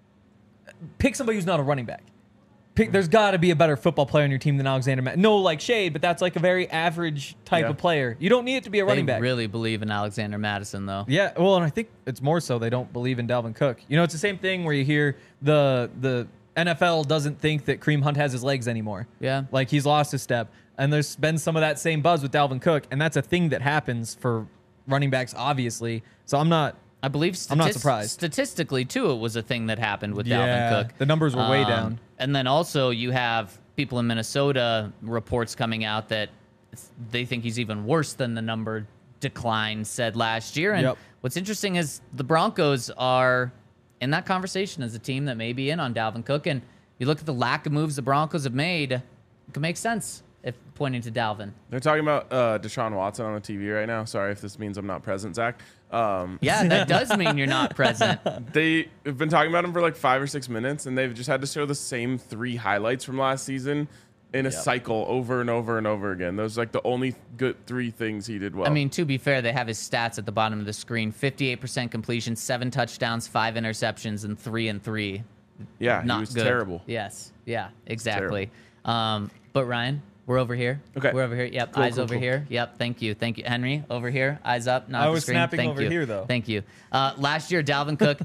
pick somebody who's not a running back. There's got to be a better football player on your team than Alexander Madison. No, like shade, but that's like a very average type Yeah. of player. You don't need it to be a running They back. really believe in Alexander Madison, though. Yeah, well, and I think it's more so they don't believe in Dalvin Cook. You know, it's the same thing where you hear the NFL doesn't think that Kareem Hunt has his legs anymore. Yeah. Like he's lost his step. And there's been some of that same buzz with Dalvin Cook, and that's a thing that happens for running backs, obviously. So I'm not. I believe I'm not surprised. statistically, too, it was a thing that happened with Dalvin Cook. The numbers were way down. And then also you have people in Minnesota reports coming out that they think he's even worse than the number decline said last year. And Yep. what's interesting is the Broncos are in that conversation as a team that may be in on Dalvin Cook. And you look at the lack of moves the Broncos have made, it can make sense if pointing to Dalvin. They're talking about Deshaun Watson on the TV right now. Sorry if this means I'm not present, Zach. Yeah, that does mean you're not present. They have been talking about him for like 5 or 6 minutes, and they've just had to show the same 3 highlights from last season in a cycle over and over and over again. Those are like the only good 3 things he did well. I mean, to be fair, they have his stats at the bottom of the screen: 58% completion, 7 touchdowns, 5 interceptions, and 3-3. yeah, Not he was good. terrible. Yes. Yeah. Exactly. But Ryan, we're over here. Okay. We're over here. Yep. Cool, eyes cool, over cool. here. Yep. Thank you. Thank you, Henry. Over here. Eyes up. Not I the was screen. snapping Thank over you. here, though. Thank you. Last year, Dalvin Cook,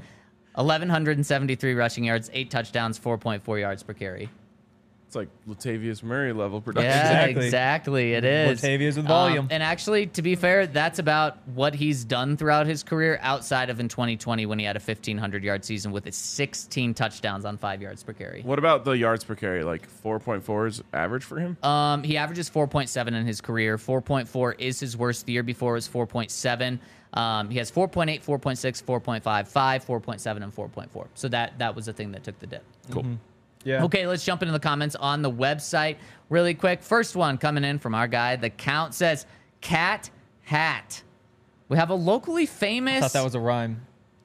1,173 rushing yards, 8 touchdowns, 4.4 yards per carry. It's like Latavius Murray level production. Yeah, Exactly. exactly. It is. Latavius with volume. And actually, to be fair, that's about what he's done throughout his career outside of in 2020 when he had a 1,500-yard season with his 16 touchdowns on 5 yards per carry. What about the yards per carry? Like 4.4 is average for him? He averages 4.7 in his career. 4.4 is his worst. The year before was 4.7. He has 4.8, 4.6, 4.5, 5, 4.7, and 4.4. So that was the thing that took the dip. Cool. Yeah. Okay, let's jump into the comments on the website really quick. First one coming in from our guy. The count says Cat Hat. We have a locally famous. I thought that was a rhyme.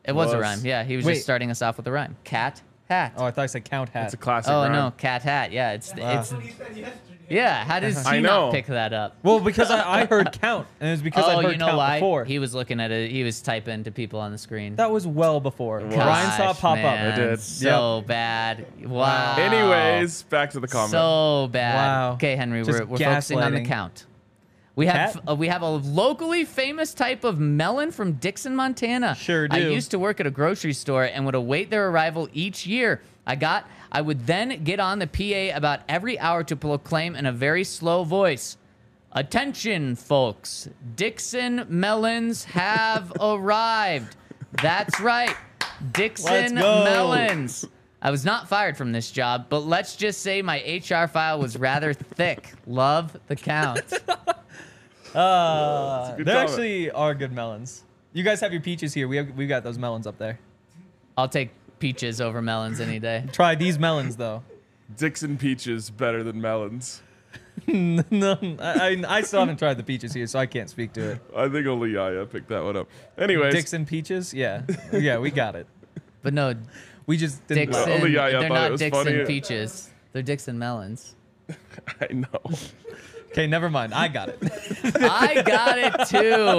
It was a Was. rhyme. Yeah, he was Wait. just starting us off with a rhyme. Cat, hat. Oh, I thought I said count hat. It's a classic. Oh rhyme. no, cat hat. Yeah, it's yeah. How does I he know. not pick that up? Well, because I heard count, and it was because I Oh, heard you know count why? before. He was looking at it. He was typing to people on the screen. That was well before. was. Ryan saw it Gosh, pop man, up. did. So bad. Wow. Anyways, back to the comment. So bad. Wow. Okay, Henry, Just we're focusing on the gaslighting. count. We have Cat? we have a locally famous type of melon from Dixon, Montana. Sure I do. used to work at a grocery store and would await their arrival each year. I would then get on the PA about every hour to proclaim in a very slow voice, "Attention, folks! Dixon melons have arrived." That's right, Dixon Let's go. melons. I was not fired from this job, but let's just say my HR file was rather thick. Love the count. good There comment. actually are good melons. You guys have your peaches here. We got those melons up there. I'll take peaches over melons any day. Try these melons though. Dixon peaches better than melons. No, I still haven't tried the peaches here, so I can't speak to it. I think only Yaya picked that one up. Anyways, Dixon peaches, yeah, yeah, we got it. But no, We just didn't. Dixon, Only Yaya they're thought it not was Dixon funny. peaches. They're Dixon melons. I know. Okay, never mind. I got it. I got it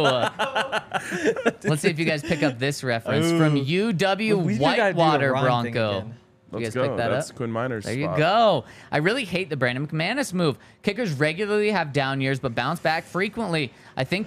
too. Let's see if you guys pick up this reference from UW We just gotta do a Whitewater rhyme thing Bronco. again. You Let's guys go. pick that That's up? Quinn Miner's There you spot. go. I really hate the Brandon McManus move. Kickers regularly have down years, but bounce back frequently. I think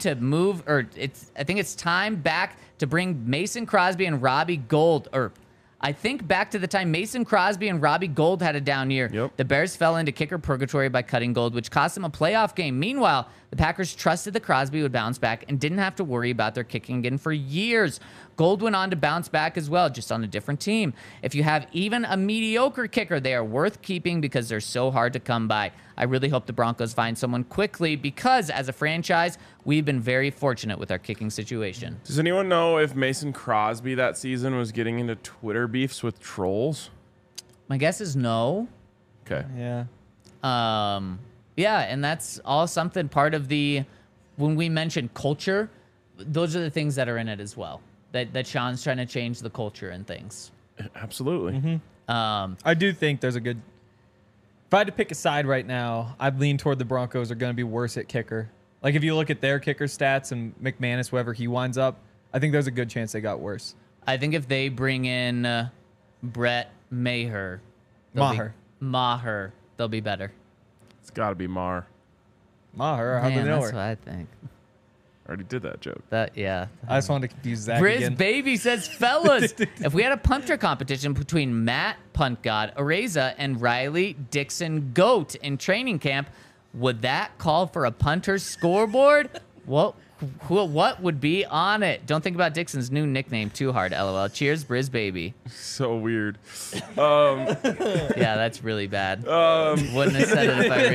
it's time back to bring Mason Crosby and Robbie Gould. I think back to the time Mason Crosby and Robbie Gould had a down year. Yep. The Bears fell into kicker purgatory by cutting Gould, which cost them a playoff game. Meanwhile, the Packers trusted that Crosby would bounce back and didn't have to worry about their kicking again for years. Gould went on to bounce back as well, just on a different team. If you have even a mediocre kicker, they are worth keeping because they're so hard to come by. I really hope the Broncos find someone quickly because, as a franchise, we've been very fortunate with our kicking situation. Does anyone know if Mason Crosby that season was getting into Twitter beefs with trolls? My guess is no. Okay. Yeah. Yeah, and that's all something part of when we mention culture, those are the things that are in it as well. That Sean's trying to change the culture and things. Absolutely. I do think there's a good. If I had to pick a side right now, I'd lean toward the Broncos are going to be worse at kicker. Like if you look at their kicker stats and McManus, wherever he winds up, I think there's a good chance they got worse. I think if they bring in Brett Maher, Maher, they'll be better. It's got to be Mar. Maher, how do Man, they know that's her? what I think. I already did that joke. Yeah. I just wanted to confuse Zach Briz again. Baby says, fellas, if we had a punter competition between Matt Punt God Areza and Riley Dixon Goat in training camp, would that call for a punter's scoreboard? What would be on it? Don't think about Dixon's new nickname too hard, LOL. Cheers, Briz Baby. So weird. Yeah, that's really bad. Wouldn't have said it if I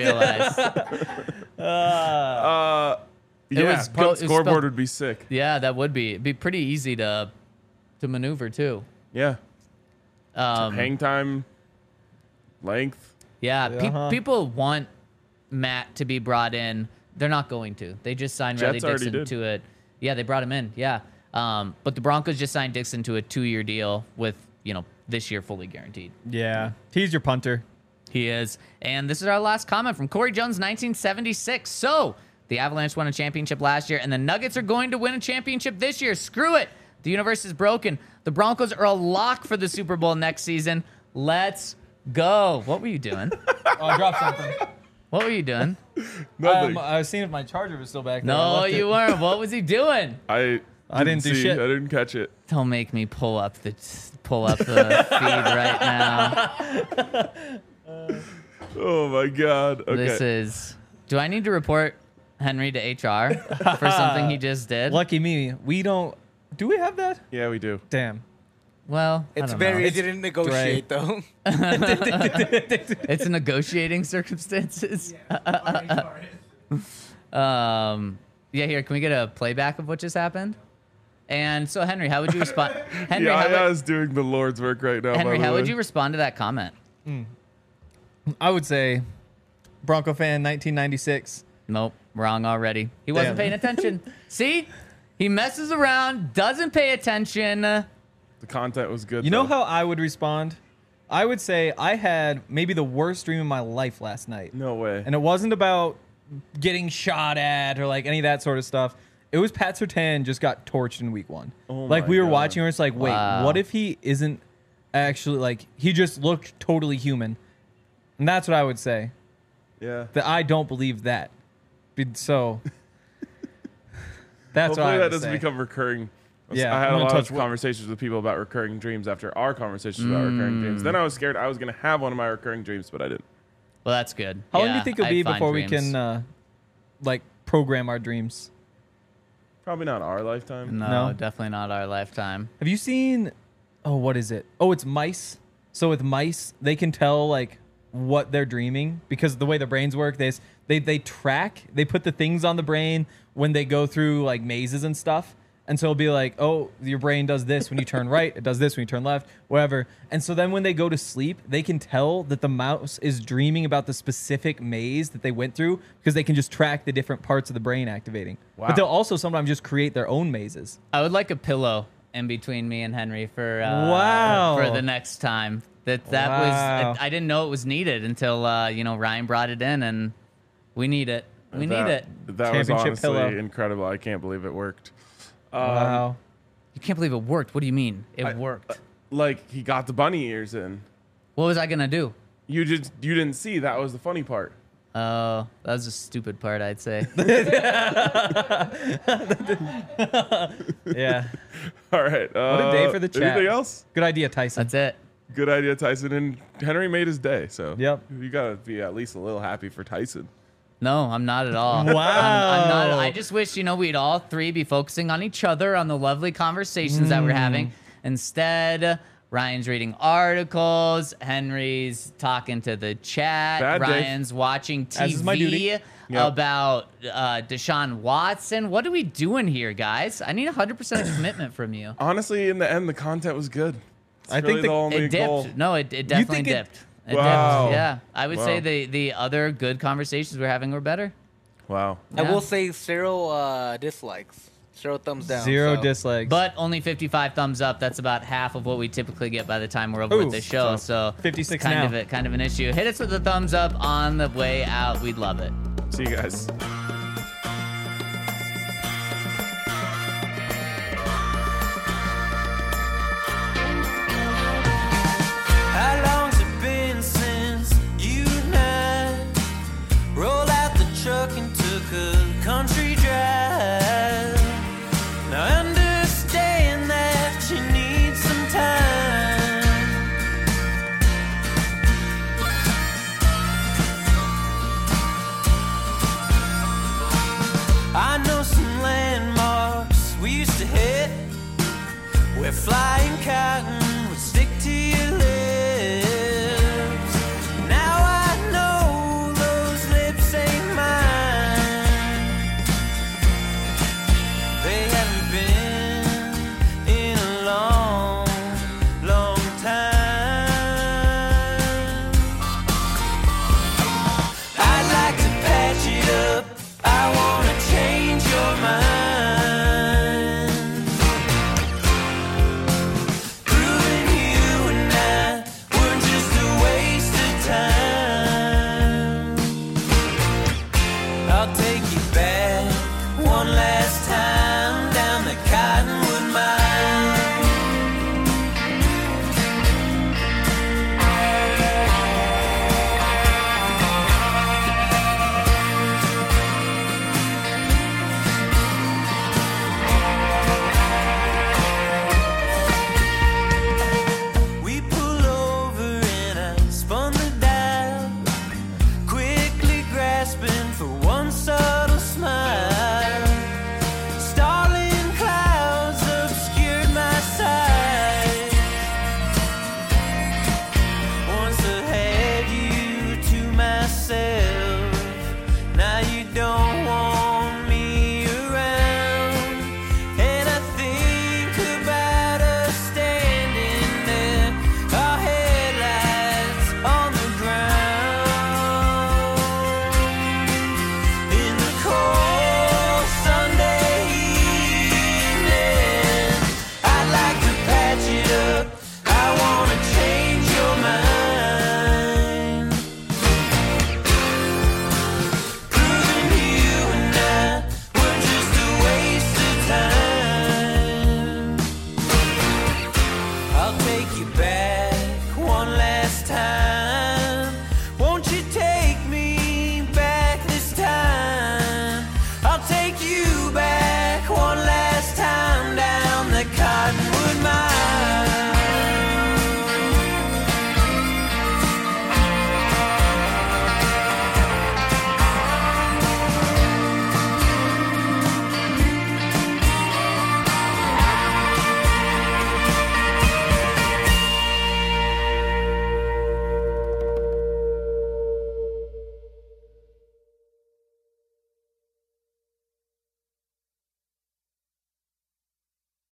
realized. Yeah, was punt it was scoreboard spelled- would be sick. Yeah, that would be. It'd be pretty easy to maneuver too. Yeah. Um, Hang time, length. Yeah, Uh-huh. people want Matt to be brought in. They're not going to. They just signed Riley Jets already Dixon did. to it. Yeah, they brought him in. Yeah, but the Broncos just signed Dixon to a 2-year deal with this year fully guaranteed. Yeah, he's your punter. He is. And this is our last comment from Corey Jones, 1976. So the Avalanche won a championship last year, and the Nuggets are going to win a championship this year. Screw it. The universe is broken. The Broncos are a lock for the Super Bowl next season. Let's go. What were you doing? Oh, I dropped something. What were you doing? Nothing. I was seeing if my charger was still back there. I No, left you it. weren't. What was he doing? I didn't do see. shit. I didn't catch it. Don't make me pull up the feed right now. Oh my god. Okay. This is. Do I need to report Henry to HR for something he just did? Lucky me. We don't. Do we have that? Yeah, we do. Damn. Well, I It's don't very. know. It didn't negotiate though. It's a negotiating circumstances. Yeah, here, can we get a playback of what just happened? And so, Henry, how would you respond? Henry, Yeah, how I would, was doing the Lord's work right now. Henry, by the how would way. you respond to that comment? I would say Bronco fan 1996. Nope, wrong already. He wasn't Damn. paying attention. See? He messes around, doesn't pay attention. The content was good. You know though. how I would respond? I would say I had maybe the worst dream of my life last night. No way. And it wasn't about getting shot at or like any of that sort of stuff. It was Pat Surtain just got torched in week 1. Oh like my we were God. watching, and it's like, wait, Wow. what if he isn't actually like he just looked totally human? And that's what I would say. Yeah. That I don't believe that. So that's Hopefully what I that would doesn't say. become recurring. Yeah, I had I'm a gonna lot of touch wood. conversations with people about recurring dreams after our conversations about recurring dreams. Then I was scared I was going to have one of my recurring dreams, but I didn't. Well, that's good. How long do Yeah, you think it'll I be find before we dreams. can like program our dreams? Probably not our lifetime. No, No? definitely not our lifetime. Have you seen? Oh, what is it? Oh, it's mice. So with mice, they can tell like what they're dreaming because the way their brains work. They track. They put the things on the brain when they go through like mazes and stuff. And so it'll be like, oh, your brain does this when you turn right. It does this when you turn left, whatever. And so then when they go to sleep, they can tell that the mouse is dreaming about the specific maze that they went through because they can just track the different parts of the brain activating. Wow. But they'll also sometimes just create their own mazes. I would like a pillow in between me and Henry for Wow. for the next time. That Wow. was I didn't know it was needed until Ryan brought it in, and we need it. We need it. That was Championship honestly pillow. incredible. I can't believe it worked. Wow. You can't believe it worked. What do you mean? It worked. Like he got the bunny ears in. What was I gonna do? You didn't see. That was the funny part. Oh, that was a stupid part, I'd say. Yeah. All right. What a day for the chat. Anything else? Good idea, Tyson. That's it. Good idea, Tyson. And Henry made his day. So Yep. you gotta be at least a little happy for Tyson. No, I'm not at all. Wow. I'm not. I just wish, we'd all three be focusing on each other, on the lovely conversations that we're having. Instead, Ryan's reading articles. Henry's talking to the chat. Bad day. Ryan's watching As is my duty. TV Yep. about Deshaun Watson. What are we doing here, guys? I need 100% commitment from you. Honestly, in the end, the content was good. It's I think really the- the only It dipped. goal. No, it definitely think it- dipped. It Wow. dipped. Yeah. I would say Wow. the other good conversations we're having were better. Wow. I Yeah. will say 0 dislikes, 0 thumbs down. Zero so. dislikes. But only 55 thumbs up. That's about half of what we typically get by the time we're over Ooh, with the show. So 56 kind now. of kind of an issue. Hit us with a thumbs up on the way out. We'd love it. See you guys. How long's it been since you and I rolled out the truck and took a country drive? Now I understand that you need some time. I know some landmarks we used to hit where flying